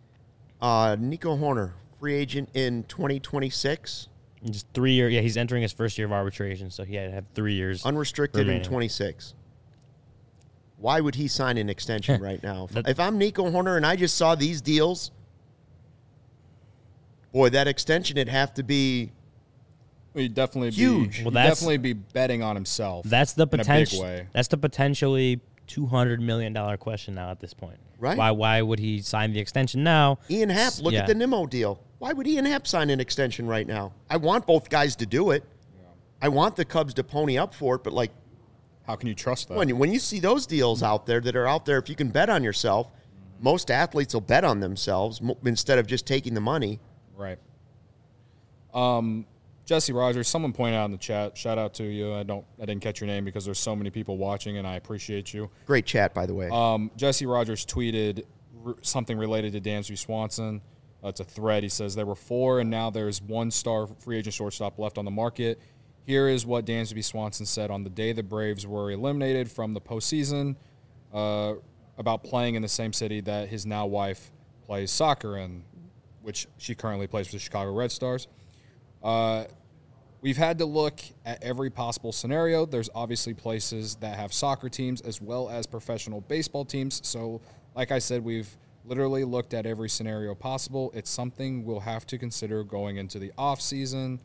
Uh, Nico Hoerner, free agent in twenty twenty-six. Just three years. Yeah, he's entering his first year of arbitration, so he had to have three years. Unrestricted remaining. in twenty-six. Why would he sign an extension right now? If, if I'm Nico Hoerner and I just saw these deals, boy, that extension would have to be well, he'd definitely huge. Be, well, he'd definitely be betting on himself. That's the potential. In a big way. That's the potentially two hundred million dollars question now at this point. Right? Why? Why would he sign the extension now? Ian Happ, look yeah. at the Nimmo deal. Why would Ian Happ sign an extension right now? I want both guys to do it. Yeah. I want the Cubs to pony up for it, but like, how can you trust that? When, when you see those deals out there that are out there, if you can bet on yourself, mm-hmm. most athletes will bet on themselves mo- instead of just taking the money. Right. Um, Jesse Rogers, someone pointed out in the chat, shout out to you. I don't, I didn't catch your name because there's so many people watching, and I appreciate you. Great chat, by the way. Um, Jesse Rogers tweeted r- something related to Dansby Swanson. Uh, it's a thread. He says there were four, and now there's one star free agent shortstop left on the market. Here is what Dansby Swanson said on the day the Braves were eliminated from the postseason. Uh, about playing in the same city that his now wife plays soccer in, which she currently plays for the Chicago Red Stars. Uh, we've had to look at every possible scenario. There's obviously places that have soccer teams as well as professional baseball teams. So, like I said, we've literally looked at every scenario possible. It's something we'll have to consider going into the offseason.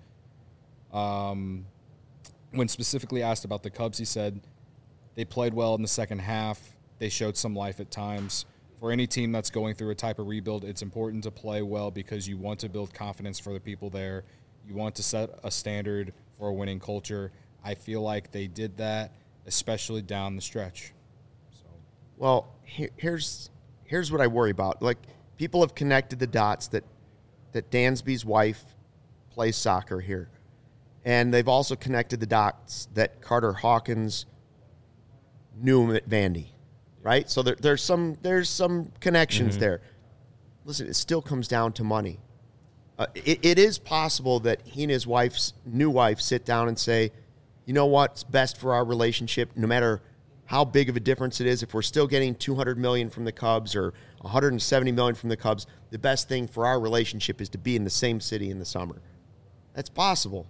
Um, when specifically asked about the Cubs, he said they played well in the second half. They showed some life at times. For any team that's going through a type of rebuild, it's important to play well because you want to build confidence for the people there. You want to set a standard for a winning culture. I feel like they did that, especially down the stretch. So, well, here, here's here's what I worry about. Like, people have connected the dots that that Dansby's wife plays soccer here, and they've also connected the dots that Carter Hawkins knew him at Vandy. Right, so there, there's some there's some connections mm-hmm. there. Listen, it still comes down to money. Uh, it, it is possible that he and his wife's new wife sit down and say, you know what's best for our relationship, no matter how big of a difference it is. If we're still getting two hundred million dollars from the Cubs or one hundred seventy million dollars from the Cubs, the best thing for our relationship is to be in the same city in the summer. That's possible.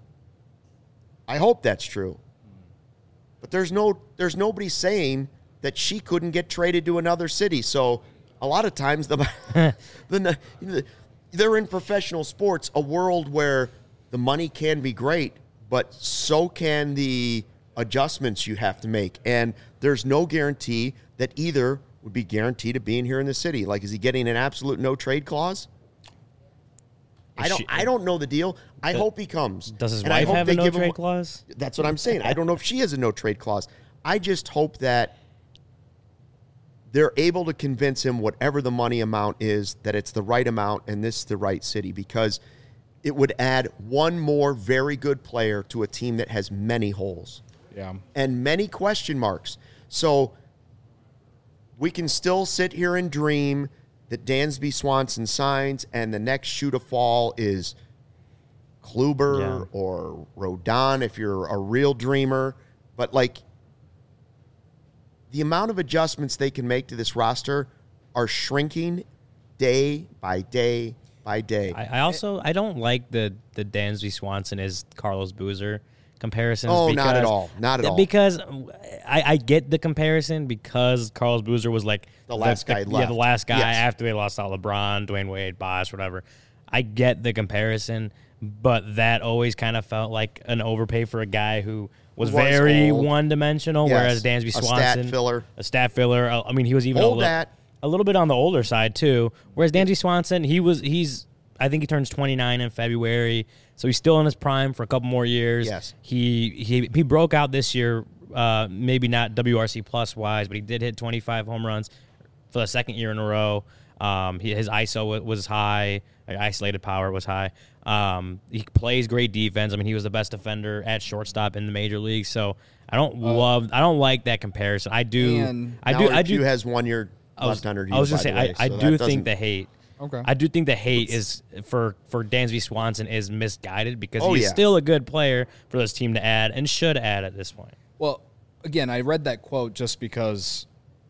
I hope that's true. But there's no there's nobody saying that she couldn't get traded to another city. So a lot of times the, the, the they're in professional sports, a world where the money can be great, but so can the adjustments you have to make. And there's no guarantee that either would be guaranteed of being here in the city. Like, is he getting an absolute no trade clause? I don't. She, I don't know the deal. I the, hope he comes. Does his and wife have a no trade him, clause? That's what I'm saying. I don't know if she has a no trade clause. I just hope that they're able to convince him, whatever the money amount is, that it's the right amount and this is the right city, because it would add one more very good player to a team that has many holes. Yeah. And many question marks. So we can still sit here and dream that Dansby Swanson signs and the next shoe to fall is Kluber yeah. or Rodon if you're a real dreamer. But, like, the amount of adjustments they can make to this roster are shrinking day by day by day. I, I also I don't like the the Dansby Swanson is Carlos Boozer comparisons. Oh, because, not at all. Not at all. Because I, I get the comparison because Carlos Boozer was like the last the, guy the, left. Yeah, the last guy yes. after they lost out LeBron, Dwayne Wade, Bosh, whatever. I get the comparison, but that always kind of felt like an overpay for a guy who was, was very old. one-dimensional, yes. whereas Dansby Swanson, a stat filler, a stat filler. I mean, he was even Hold a, little, a little bit on the older side too. Whereas Dansby Swanson, he was he's I think he turns twenty-nine in February, so he's still in his prime for a couple more years. Yes, he he he broke out this year, uh, maybe not W R C plus wise, but he did hit twenty-five home runs for the second year in a row. Um, he, his I S O was high, isolated power was high. Um, he plays great defense. I mean, he was the best defender at shortstop in the major leagues. So I don't uh, love, I don't like that comparison. I do, I do, I do. Hugh has one year left under you. I was going to say, way, I, I so do think the hate. Okay. I do think the hate is for for Dansby Swanson is misguided because oh, he's yeah. still a good player for this team to add and should add at this point. Well, again, I read that quote just because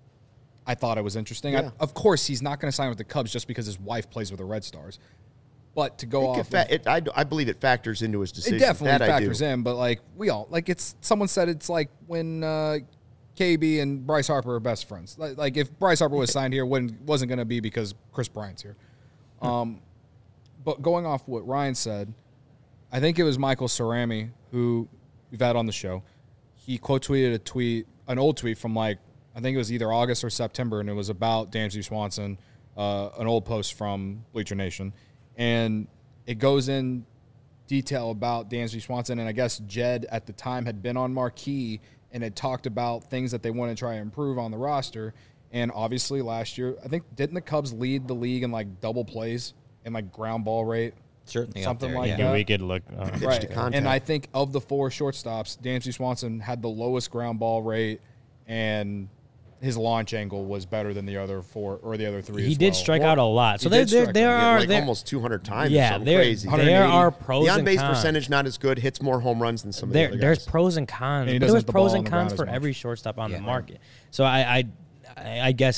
I thought it was interesting. Yeah. I, of course, he's not going to sign with the Cubs just because his wife plays with the Red Stars. But to go it off, fa- of, it, I, I believe it factors into his decision. It definitely that factors in. But like we all like, it's someone said it's like when uh, K B and Bryce Harper are best friends. Like, like if Bryce Harper was signed here, wouldn't wasn't going to be because Chris Bryant's here. Um, but going off what Ryan said, I think it was Michael Cerami who we've had on the show. He quote tweeted a tweet, an old tweet from like I think it was either August or September, and it was about Dansby Swanson, uh, an old post from Bleacher Nation. And it goes in detail about Dansby Swanson, and I guess Jed at the time had been on Marquee and had talked about things that they want to try and improve on the roster. And obviously last year, I think, didn't the Cubs lead the league in like double plays and like ground ball rate? Certainly something there, like yeah. that. Yeah, we could look. Uh, right. And I think of the four shortstops, Dansby Swanson had the lowest ground ball rate, and his launch angle was better than the other four or the other three. He as did well. strike or, out a lot. So there, there, there yeah, are like there, almost two hundred times. Yeah, or there, crazy. there are pros the and on base cons. percentage not as good. Hits more home runs than some of there, the other There's guys. pros and cons. And There's pros and cons for much. every shortstop on yeah. the market. So I, I, I guess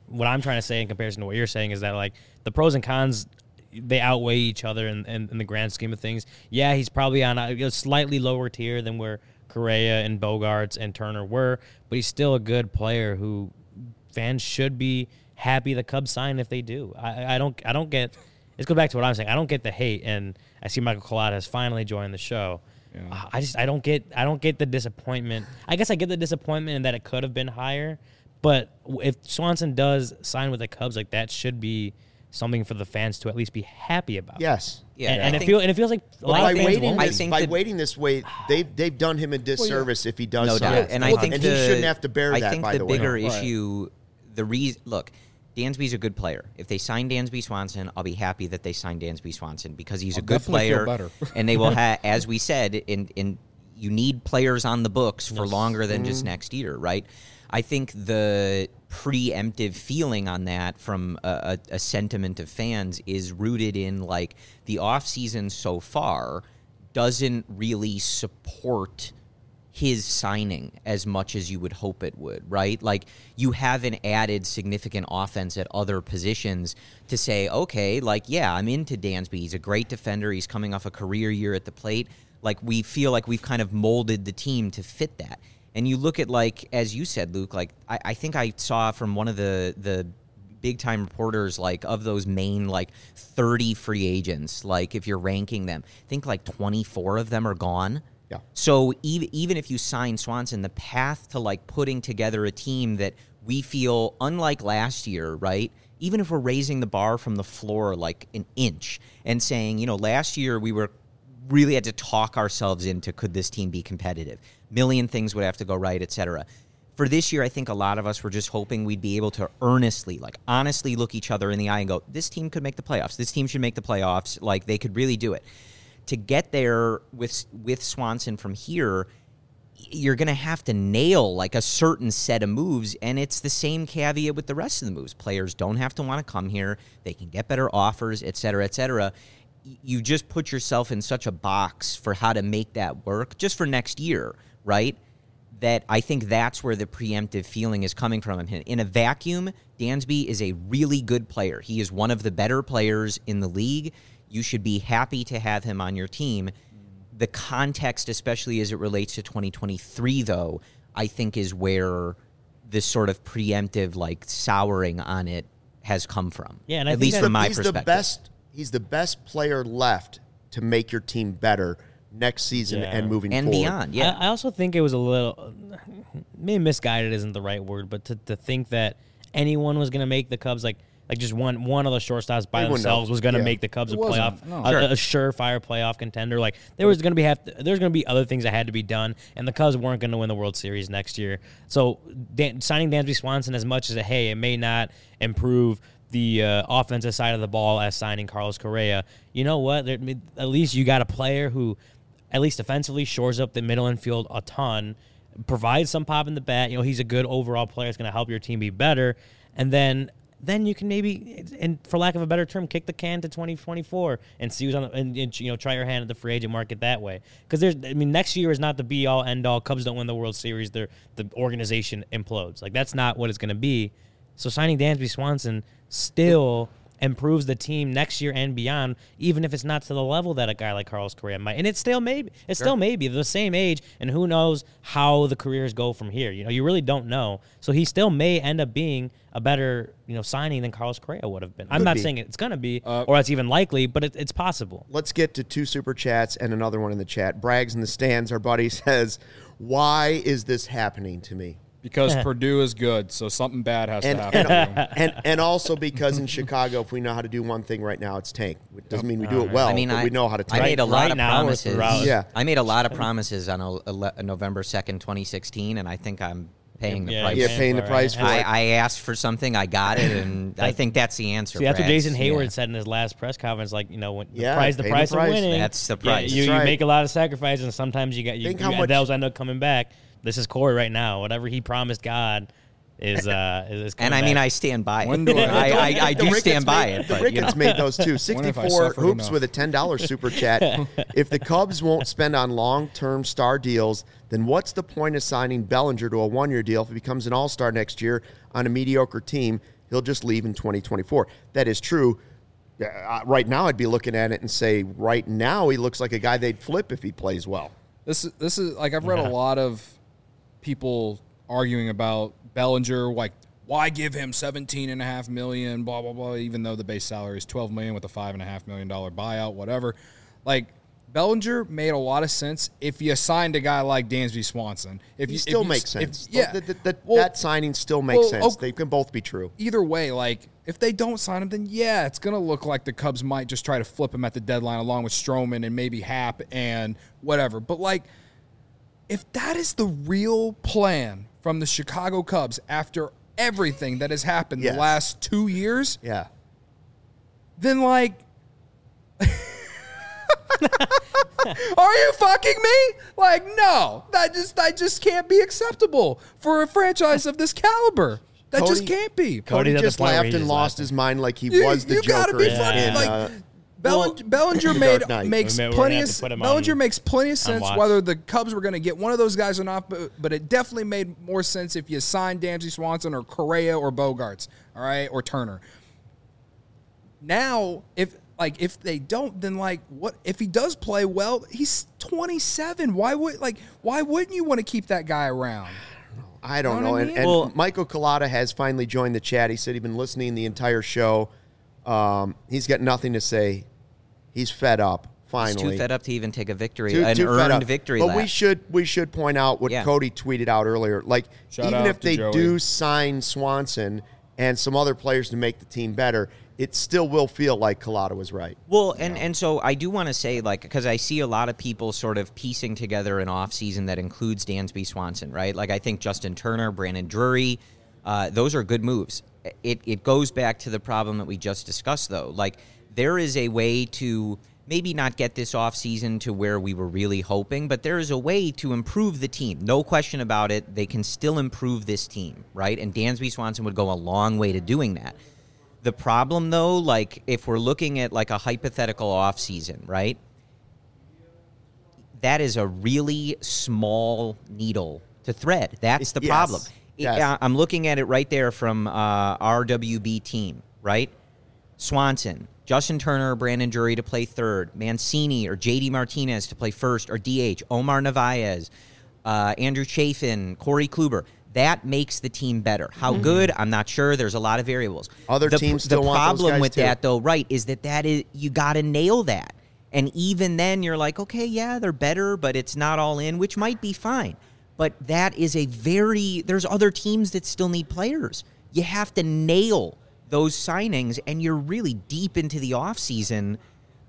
what I'm trying to say in comparison to what you're saying is that, like, the pros and cons, they outweigh each other in, in, in the grand scheme of things. Yeah, he's probably on a, a slightly lower tier than where Correa and Bogaerts and Turner were, but he's still a good player who fans should be happy the Cubs sign if they do. I, I don't I don't get – let's go back to what I'm saying. I don't get the hate, and I see Michael Collada has finally joined the show. Yeah. I just I don't get I don't get the disappointment. I guess I get the disappointment in that it could have been higher, but if Swanson does sign with the Cubs, like, that should be something for the fans to at least be happy about. Yes. Yeah. And, and it feel and it feels like a lot by of fans waiting won't. this, by that, waiting this way, they've they've done him a disservice well, yeah. if he does no sign. doubt. And I think and the, he shouldn't have to bear I that. think by the, the bigger way. issue, the reason look. Dansby's a good player. If they sign Dansby Swanson, I'll be happy that they signed Dansby Swanson because he's I'll a good player. Feel better. And they will have, as we said, in in you need players on the books for yes. longer than mm-hmm. just next year, right? I think the preemptive feeling on that from a, a, a sentiment of fans is rooted in, like, the offseason so far doesn't really support his signing as much as you would hope it would, right? Like, you haven't added significant offense at other positions to say, okay, like, yeah, I'm into Dansby. He's a great defender. He's coming off a career year at the plate. Like, we feel like we've kind of molded the team to fit that. And you look at, like, as you said, Luke, like, I, I think I saw from one of the, the big-time reporters, like, of those main, like, thirty free agents, like, if you're ranking them, I think, like, twenty-four of them are gone. Yeah. So even even if you sign Swanson, the path to, like, putting together a team that we feel, unlike last year, right? Even if we're raising the bar from the floor like an inch and saying, you know, last year we were really had to talk ourselves into, could this team be competitive? Million things would have to go right, et cetera. For this year, I think a lot of us were just hoping we'd be able to earnestly, like, honestly look each other in the eye and go, this team could make the playoffs. This team should make the playoffs. Like, they could really do it. To get there with with Swanson from here, you're going to have to nail, like, a certain set of moves, and it's the same caveat with the rest of the moves. Players don't have to want to come here. They can get better offers, et cetera, et cetera. You just put yourself in such a box for how to make that work just for next year, right? That I think that's where the preemptive feeling is coming from. In a vacuum, Dansby is a really good player. He is one of the better players in the league. You should be happy to have him on your team. The context, especially as it relates to twenty twenty-three, though, I think is where this sort of preemptive, like, souring on it has come from. Yeah, and I at think least from my he's perspective. The best, he's the best player left to make your team better next season yeah. and moving and forward. beyond. Yeah, I, I also think it was a little, maybe misguided isn't the right word, but to, to think that anyone was going to make the Cubs, like, Like just one one of the shortstops by Everyone themselves knows. was going to Yeah. make the Cubs It a playoff, wasn't. No. a, Sure. a surefire playoff contender. Like there was going to be have to, there's going to be other things that had to be done, and the Cubs weren't going to win the World Series next year. So Dan, signing Dansby Swanson, as much as a, hey, it may not improve the uh, offensive side of the ball as signing Carlos Correa. You know what? There, at least you got a player who, at least offensively, shores up the middle infield a ton, provides some pop in the bat. You know, he's a good overall player. It's going to help your team be better, and then. Then you can maybe, and for lack of a better term, kick the can to twenty twenty-four and see who's on the, and, and you know, try your hand at the free agent market that way. Because there's, I mean, next year is not the be all end all. Cubs don't win the World Series, they're, the organization implodes. Like that's not what it's going to be. So signing Dansby Swanson still improves the team next year and beyond, even if it's not to the level that a guy like Carlos Correa might. And it still may be. It still may be. They're the same age, and who knows how the careers go from here. You know, you really don't know. So he still may end up being a better, you know, signing than Carlos Correa would have been. I'm Could not be. saying it's going to be, Uh, or it's even likely, but it, it's possible. Let's get to two super chats and another one in the chat. Braggs in the stands, our buddy says, why is this happening to me? Because Purdue is good, so something bad has And to and, happen. and and also because in Chicago, if we know how to do one thing right now, it's tank. It doesn't mean we do it well, I mean, but I, we know how to I tank. made a lot Right of now or promises. throughout. Yeah. I made a lot of promises on a, a, a November second, twenty sixteen, and I think I'm paying the Yeah, price. yeah, paying paying the for it, price right? for I, it. I asked for something, I got it, and I think that's the answer. See, that's what Brad. Jason Hayward Yeah. said in his last press conference. Like, you know, when the Yeah, price, the pay the price of price. winning. That's the yeah, price. you, That's you right. make a lot of sacrifices, and sometimes you got you, Think you how much- those end up coming back. This is Corey right now. Whatever he promised God is uh is, is coming And I mean, back. I stand by it. When do I- I, I, I The do Ricketts stand by made, it. The But, you know. Ricketts made those too. When have I sixty-four suffered hoops enough? with a ten dollars super chat. If the Cubs won't spend on long-term star deals, then what's the point of signing Bellinger to a one-year deal if he becomes an all-star next year on a mediocre team? he'll just leave in twenty twenty-four. That is true. Uh, right now, I'd be looking at it and say, right now, he looks like a guy they'd flip if he plays well. This is this is like I've read yeah. a lot of people arguing about Bellinger, like why give him seventeen and a half million, blah blah blah, even though the base salary is twelve million with a five and a half million dollar buyout, whatever. Like Bellinger made a lot of sense if you signed a guy like Dansby Swanson. If he you still if makes you, sense. If, yeah, the, the, the, well, that signing still makes well, sense. Okay. They can both be true. Either way, like if they don't sign him, then yeah, it's gonna look like the Cubs might just try to flip him at the deadline along with Stroman and maybe Happ and whatever. But like, if that is the real plan from the Chicago Cubs after everything that has happened yes. the last two years, yeah, then like. Are you fucking me? Like, no. That just that just can't be acceptable for a franchise of this caliber. That Cody, just can't be. Cody, Cody just laughed and lost his mind like he you, was the you Joker. You gotta be in, funny. in, like, uh, Bellinger, well, Bellinger made makes We're plenty of Bellinger on, makes plenty of sense whether the Cubs were going to get one of those guys or not, but, but it definitely made more sense if you signed Dansby Swanson or Correa or Bogarts, all right, or Turner. Now, if like if they don't, then like what if he does play well? He's twenty-seven. Why would like why wouldn't you want to keep that guy around? I don't you know. know. I mean? And, and well, Michael Collada has finally joined the chat. He said he'd been listening the entire show. Um, he's got nothing to say. He's fed up. Finally, he's too fed up to even take a victory, too, an too earned victory. But lap. we should we should point out what yeah. Cody tweeted out earlier. Like Shout even if they Joey. do sign Swanson and some other players to make the team better, it still will feel like Collada was right. Well, and, and so I do want to say, like, because I see a lot of people sort of piecing together an offseason that includes Dansby Swanson, right? Like, I think Justin Turner, Brandon Drury, uh, those are good moves. It, it goes back to the problem that we just discussed, though. Like, there is a way to maybe not get this offseason to where we were really hoping, but there is a way to improve the team. No question about it. They can still improve this team, right? And Dansby Swanson would go a long way to doing that. The problem, though, like, if we're looking at, like, a hypothetical offseason, right, that is a really small needle to thread. That's the yes. problem. Yes. It, I'm looking at it right there from uh, R W B team, right? Swanson, Justin Turner, Brandon Drury to play third, Mancini or J D Martinez to play first or D H, Omar Narvaez, uh, Andrew Chafin, Corey Kluber. That makes the team better. How mm-hmm. good? I'm not sure. There's a lot of variables. Other the, teams still the want those problem guys with too. that, though, right, is that that is you got to nail that. And even then, you're like, okay, yeah, they're better, but it's not all in, which might be fine. But that is a very – there's other teams that still need players. You have to nail those signings, and you're really deep into the offseason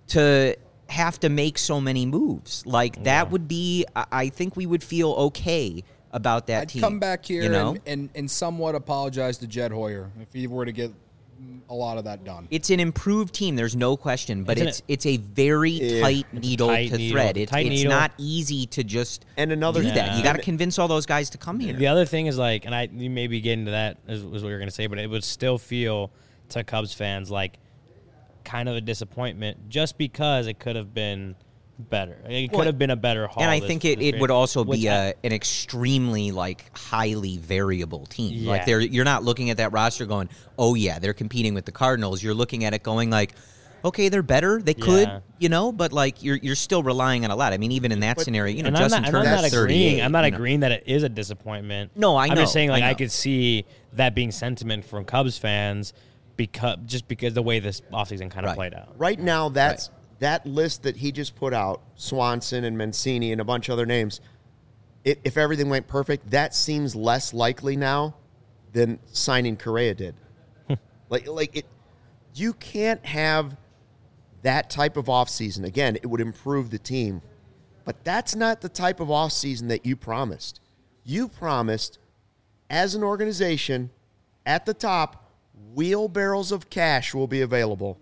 to have to make so many moves. Like, that yeah. would be – I think we would feel okay about that I'd team. come back here you know? and, and, and somewhat apologize to Jed Hoyer if he were to get a lot of that done. It's an improved team, there's no question, but Isn't it's it? it's a very Yeah. tight It's needle tight to needle. thread. It, Tight it's needle. not easy to just And another do that. Yeah. You got to convince all those guys to come here. The other thing is like, and I you may be getting to that is, is what you're going to say, but it would still feel to Cubs fans like kind of a disappointment just because it could have been better. It could Well, have been a better haul. And I this- think it, this it year, would also which be I- a, an extremely like highly variable team. Yeah. Like they're you're not looking at that roster going, oh yeah, they're competing with the Cardinals. You're looking at it going like, okay, they're better. They could, Yeah. you know, but like you're you're still relying on a lot. I mean, even in that But- scenario, you know, and Justin I'm not, Turner's I'm not thirty-eight. agreeing. I'm not you know. agreeing that it is a disappointment. No, I I'm know. just saying like I I, know. could see that being sentiment from Cubs fans because just because the way this offseason kind of Right. played out. Right now, that's that list that he just put out, Swanson and Mancini and a bunch of other names, it, if everything went perfect, that seems less likely now than signing Correa did. like, like it, you can't have that type of offseason. Again, it would improve the team. But that's not the type of offseason that you promised. You promised, as an organization, at the top, wheelbarrows of cash will be available.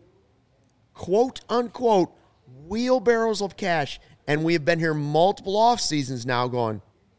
Quote, unquote, wheelbarrows of cash. And we have been here multiple off seasons now going,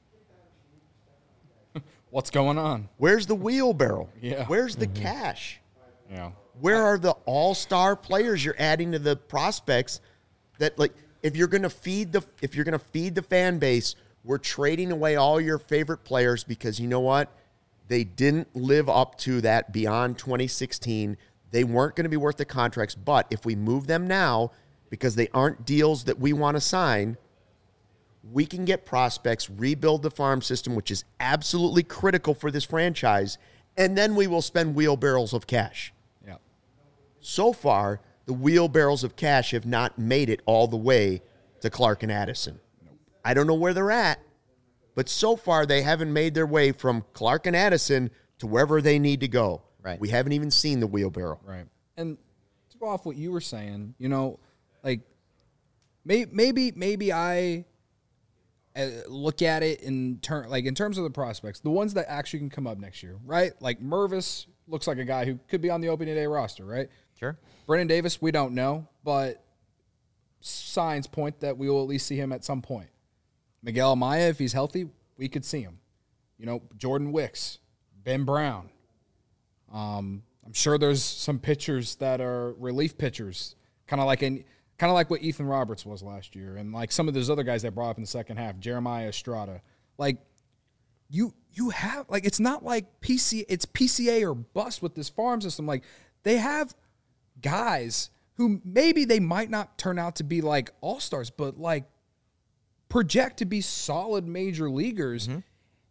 What's going on? where's the wheelbarrow? Yeah. Where's the cash? Yeah. Where are the all-star players you're adding to the prospects that, like, if you're going to feed the if you're going to feed the fan base, we're trading away all your favorite players because you know what? They didn't live up to that beyond twenty sixteen. They weren't going to be worth the contracts, but if we move them now, because they aren't deals that we want to sign, we can get prospects, rebuild the farm system, which is absolutely critical for this franchise, and then we will spend wheelbarrows of cash. Yeah. So far, the wheelbarrows of cash have not made it all the way to Clark and Addison. Nope. I don't know where they're at, but so far they haven't made their way from Clark and Addison to wherever they need to go. Right. We haven't even seen the wheelbarrow. Right. And to go off what you were saying, you know, like may, maybe maybe I uh, look at it in term like in terms of the prospects, the ones that actually can come up next year, right? Like Mervis looks like a guy who could be on the opening day roster, right? Sure. Brennan Davis, we don't know, but signs point that we will at least see him at some point. Miguel Amaya, if he's healthy, we could see him. You know, Jordan Wicks, Ben Brown. Um, I'm sure there's some pitchers that are relief pitchers, kind of like in, kind of like what Ethan Roberts was last year, and like some of those other guys that brought up in the second half, Jeremiah Estrada. Like you, you have like it's not like P C, it's P C A or bust with this farm system. Like they have guys who maybe they might not turn out to be like all-stars, but like project to be solid major leaguers. Mm-hmm.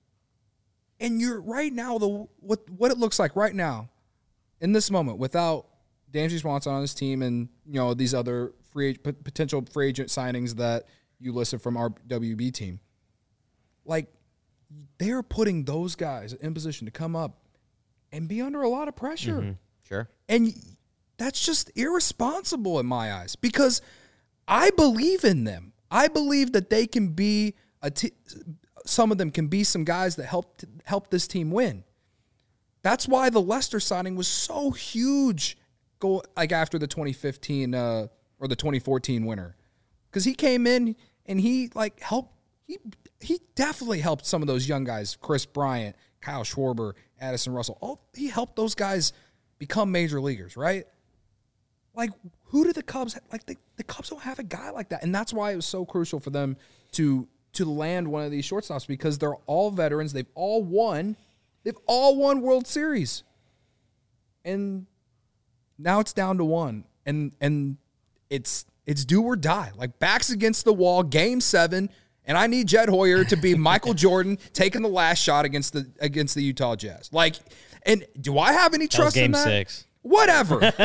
And you're right now, the what what it looks like right now in this moment without Dansby Swanson on his team and, you know, these other free potential free agent signings that you listed from our W B team. Like, they're putting those guys in position to come up and be under a lot of pressure. Mm-hmm. Sure. And that's just irresponsible in my eyes because I believe in them. I believe that they can be a t- some of them can be some guys that help help this team win. That's why the Lester signing was so huge. Go like after the twenty fifteen uh, or the twenty fourteen winter, because he came in and he like helped. He he definitely helped some of those young guys, Chris Bryant, Kyle Schwarber, Addison Russell. All he helped those guys become major leaguers, right? Like, who do the Cubs like? The, the Cubs don't have a guy like that, and that's why it was so crucial for them to to land one of these shortstops because they're all veterans. They've all won. They've all won World Series, and now it's down to one, and and it's it's do or die. Like backs against the wall, Game Seven, and I need Jed Hoyer to be Michael Jordan taking the last shot against the against the Utah Jazz. Like, and do I have any trust that was in game that? Six. Whatever. Game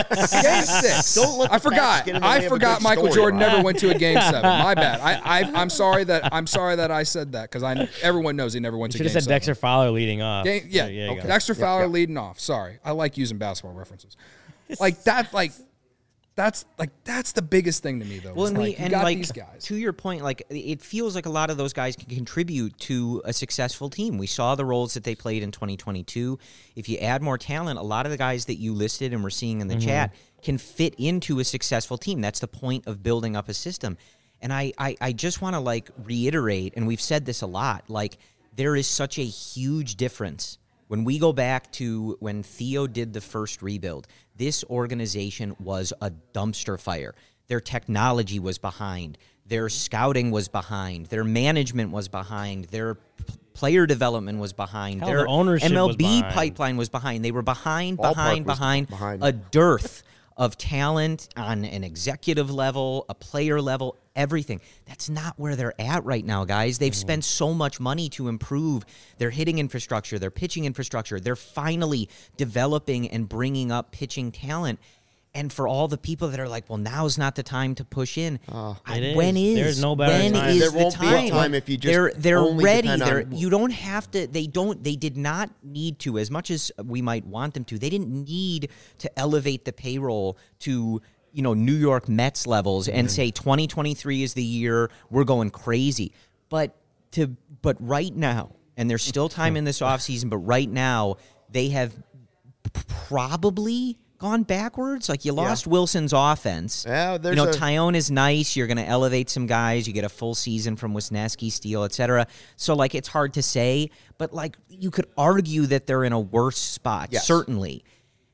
six. Don't let the I forgot. I forgot Michael story, Jordan Ryan. never went to a game seven. My bad. I, I I'm sorry that I'm sorry that I said that because I everyone knows he never went You to should game have said seven. Dexter Fowler leading off. Game, yeah. So, yeah okay. go. Dexter Fowler Yep, yep. leading off. Sorry. I like using basketball references. Like that. Like that's like that's the biggest thing to me though. Well, and, like, we, you and got like these guys. to your point, like it feels like a lot of those guys can contribute to a successful team. We saw the roles that they played in twenty twenty-two. If you add more talent, a lot of the guys that you listed and we're seeing in the mm-hmm. chat can fit into a successful team. That's the point of building up a system. And I, I, I just want to like reiterate, and we've said this a lot, like there is such a huge difference. When we go back to when Theo did the first rebuild, this organization was a dumpster fire. Their technology was behind. Their scouting was behind. Their management was behind. Their p- player development was behind. Hell, Their the ownership M L was B behind. pipeline was behind. They were behind, Ballpark behind, was behind, behind. a dearth of talent on an executive level, a player level, everything. That's not where they're at right now, guys. They've mm-hmm. spent so much money to improve their hitting infrastructure, their pitching infrastructure. They're finally developing and bringing up pitching talent. And for all the people that are like, well, now's not the time to push in. Uh, I, is. when is? There's no better when time. is There the won't be a time? time if you just they're they're only ready. depend They're, on- you don't have to. They don't. They did not need to, as much as we might want them to. They didn't need to elevate the payroll to, you know, New York Mets levels and say twenty twenty-three is the year we're going crazy. But to but right now, and there's still time in this offseason, but right now they have p- probably gone backwards. Like you lost Yeah. Wilson's offense. Yeah, there's you know, a- Tyone is nice. You're going to elevate some guys. You get a full season from Wisniewski, Steele, et cetera. So, like, it's hard to say, but, like, you could argue that they're in a worse spot, Yes. certainly.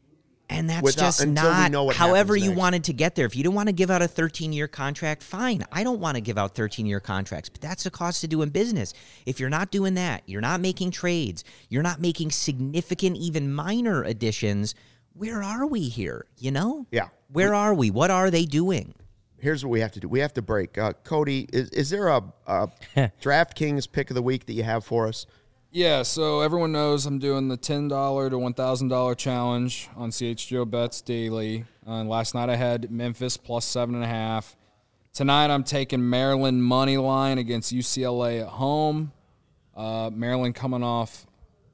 And that's Without, just not however you next. wanted to get there. If you don't want to give out a thirteen-year contract, fine. I don't want to give out thirteen-year contracts, but that's the cost of doing business. If you're not doing that, you're not making trades, you're not making significant, even minor additions, where are we here, you know? Yeah. Where are we? What are they doing? Here's what we have to do. We have to break. Uh, Cody, is, is there a, a DraftKings pick of the week that you have for us? Yeah, so everyone knows I'm doing the ten dollars to one thousand dollars challenge on C H G O Bets daily. Uh, last night I had Memphis plus seven and a half. Tonight I'm taking Maryland money line against U C L A at home. Uh, Maryland coming off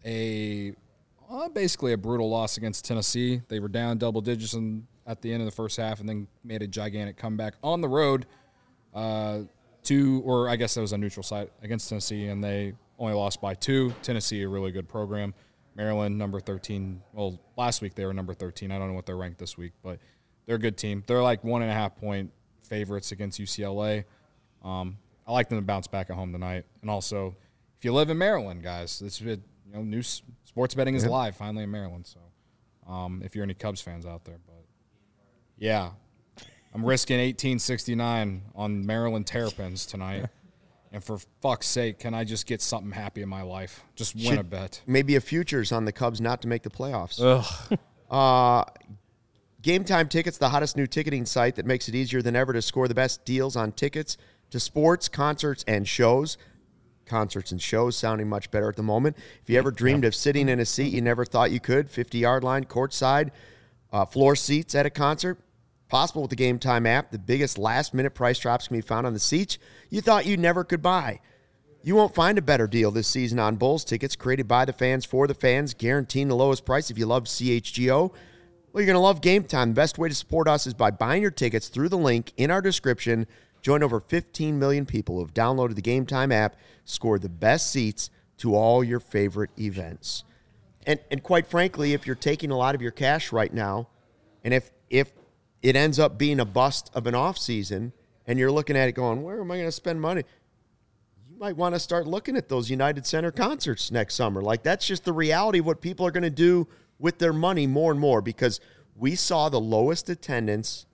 a uh, basically a brutal loss against Tennessee. They were down double digits in, at the end of the first half and then made a gigantic comeback on the road uh, to, or I guess that was a neutral site against Tennessee, and they only lost by two. Tennessee, a really good program. Maryland, number thirteen. Well, last week they were number thirteen. I don't know what they're ranked this week, but they're a good team. They're like one and a half point favorites against U C L A. Um, I like them to bounce back at home tonight. And also, if you live in Maryland, guys, this you know new sports betting is yeah. live finally in Maryland. So, um, if you're any Cubs fans out there, but yeah, I'm risking eighteen sixty-nine on Maryland Terrapins tonight. And for fuck's sake, can I just get something happy in my life? Just win Should, a bet. Maybe a futures on the Cubs not to make the playoffs. Ugh. uh, Game Time Tickets, the hottest new ticketing site that makes it easier than ever to score the best deals on tickets to sports, concerts, and shows. Concerts and shows sounding much better at the moment. If you ever dreamed of sitting in a seat you never thought you could, fifty-yard line, courtside, uh, floor seats at a concert, possible with the Game Time app. The biggest last-minute price drops can be found on the seats you thought you never could buy. You won't find a better deal this season on Bulls tickets created by the fans for the fans, guaranteeing the lowest price. If you love C H G O, well, you're going to love Game Time. The best way to support us is by buying your tickets through the link in our description. Join over fifteen million people who have downloaded the Game Time app, scored the best seats to all your favorite events. And and quite frankly, if you're taking a lot of your cash right now, and if if it ends up being a bust of an off season, and you're looking at it going, where am I going to spend money? You might want to start looking at those United Center concerts next summer. Like, that's just the reality of what people are going to do with their money more and more, because we saw the lowest attendance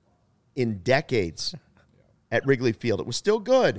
in decades at Wrigley Field. It was still good.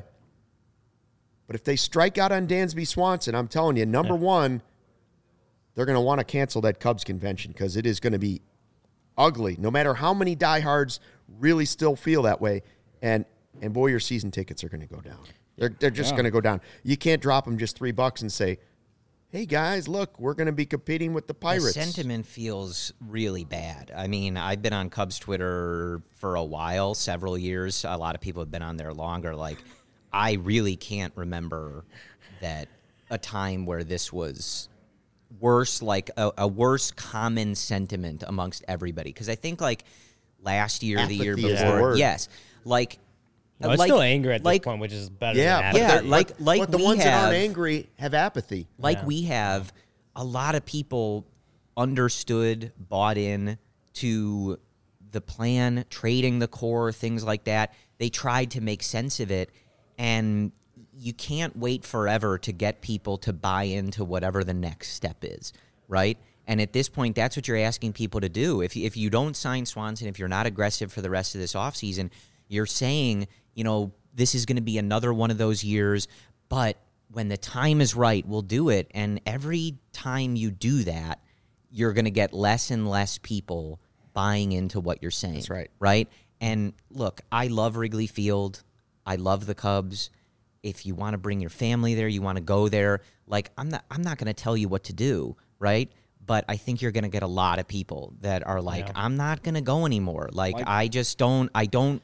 But if they strike out on Dansby Swanson, I'm telling you, number yeah. one, they're going to want to cancel that Cubs convention because it is going to be ugly, no matter how many diehards really still feel that way. And and boy, your season tickets are going to go down. They're they're just yeah. going to go down. You can't drop them just three bucks and say, hey, guys, look, we're going to be competing with the Pirates. The sentiment feels really bad. I mean, I've been on Cubs Twitter for a while, several years. A lot of people have been on there longer. Like, I really can't remember that a time where this was worse, like a, a worse common sentiment amongst everybody. Because I think, like, last year, Apathy the year before, yes, like, no, it's like, still anger at like, this point, which is better yeah, than yeah, apathy. like, like but the we ones have, that aren't angry have apathy. Like yeah. we have, a lot of people understood, bought in to the plan, trading the core, things like that. They tried to make sense of it, and you can't wait forever to get people to buy into whatever the next step is, right? And at this point, that's what you're asking people to do. If if you don't sign Swanson, if you're not aggressive for the rest of this offseason, you're saying, you know, this is going to be another one of those years, but when the time is right, we'll do it. And every time you do that, you're going to get less and less people buying into what you're saying. That's right. Right? And look, I love Wrigley Field. I love the Cubs. If you want to bring your family there, you want to go there, like, I'm not I'm not going to tell you what to do, right? But I think you're going to get a lot of people that are like, yeah. I'm not going to go anymore. Like, like, I just don't, I don't,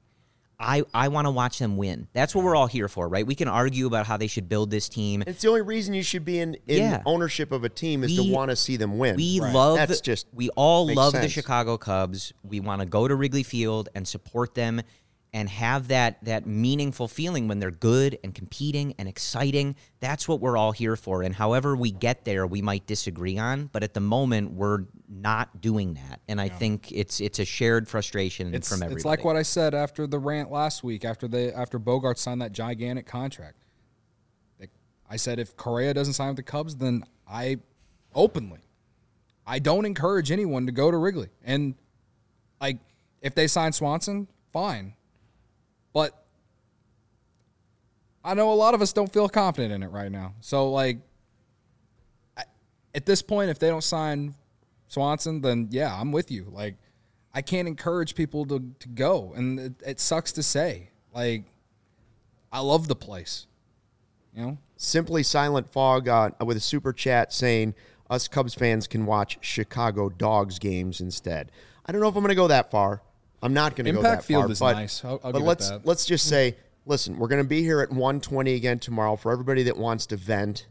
I, I want to watch them win. That's what we're all here for, right? We can argue about how they should build this team. It's the only reason you should be in, in yeah. ownership of a team is we, to want to see them win. We right. love, That's just we all love sense. the Chicago Cubs. We want to go to Wrigley Field and support them and have that that meaningful feeling when they're good and competing and exciting. That's what we're all here for. And however we get there, we might disagree on, but at the moment, we're not doing that. And I yeah. think it's it's a shared frustration it's, from everybody. It's like what I said after the rant last week, after they after Bogart signed that gigantic contract. I said if Correa doesn't sign with the Cubs, then I openly I don't encourage anyone to go to Wrigley. And, like, if they sign Swanson, fine. But I know a lot of us don't feel confident in it right now. So, like, at this point, if they don't sign Swanson, then, yeah, I'm with you. Like, I can't encourage people to, to go. And it, it sucks to say. Like, I love the place. You know? Simply Silent Fog uh, with a super chat saying, us Cubs fans can watch Chicago Dogs games instead. I don't know if I'm going to go that far. I'm not going to go that Impact Field far. is but, nice. I'll, I'll but give let's it that. let's just say, listen, we're going to be here at one twenty again tomorrow for everybody that wants to vent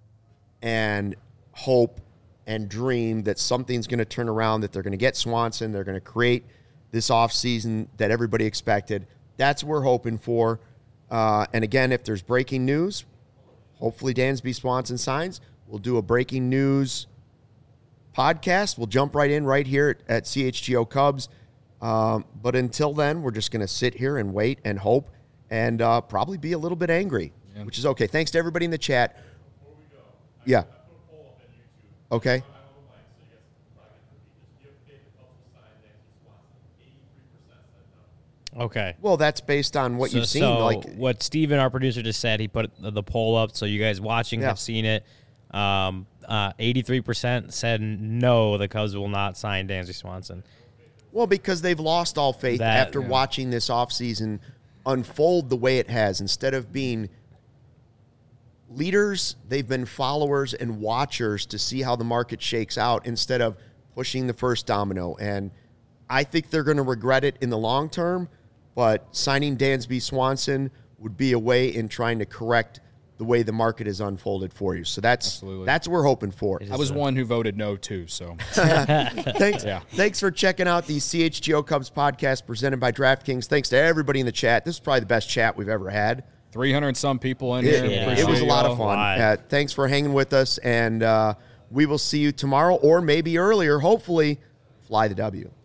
and hope and dream that something's going to turn around, that they're going to get Swanson, they're going to create this offseason that everybody expected. That's what we're hoping for. Uh, and again, if there's breaking news, hopefully Dansby Swanson signs. We'll do a breaking news podcast. We'll jump right in right here at, at C H G O Cubs. Um, but until then, we're just going to sit here and wait and hope and uh, probably be a little bit angry, yeah. which is okay. Thanks to everybody in the chat. Before we go, I, yeah. I put a poll up on YouTube. Okay. I don't know Mike, so you guys can probably get the just give Dave the Cubs will sign Dansby Swanson. eighty-three percent said no. Okay. Well, that's based on what so, you've seen. So like what Steven, our producer, just said, he put the, the poll up, so you guys watching yeah. have seen it. Um, uh, eighty-three percent said no, the Cubs will not sign Dansby Swanson. Well, because they've lost all faith that, after yeah. watching this offseason unfold the way it has. Instead of being leaders, they've been followers and watchers to see how the market shakes out instead of pushing the first domino. And I think they're going to regret it in the long term, but signing Dansby Swanson would be a way in trying to correct the way the market has unfolded for you. So that's Absolutely. that's what we're hoping for. I was one who voted no, too, so. thanks, yeah. thanks for checking out the C H G O Cubs podcast presented by DraftKings. Thanks to everybody in the chat. This is probably the best chat we've ever had. three hundred some people in It, here. Yeah. it was a lot you of all. fun. Uh, thanks for hanging with us, and uh, we will see you tomorrow or maybe earlier. Hopefully, fly the W.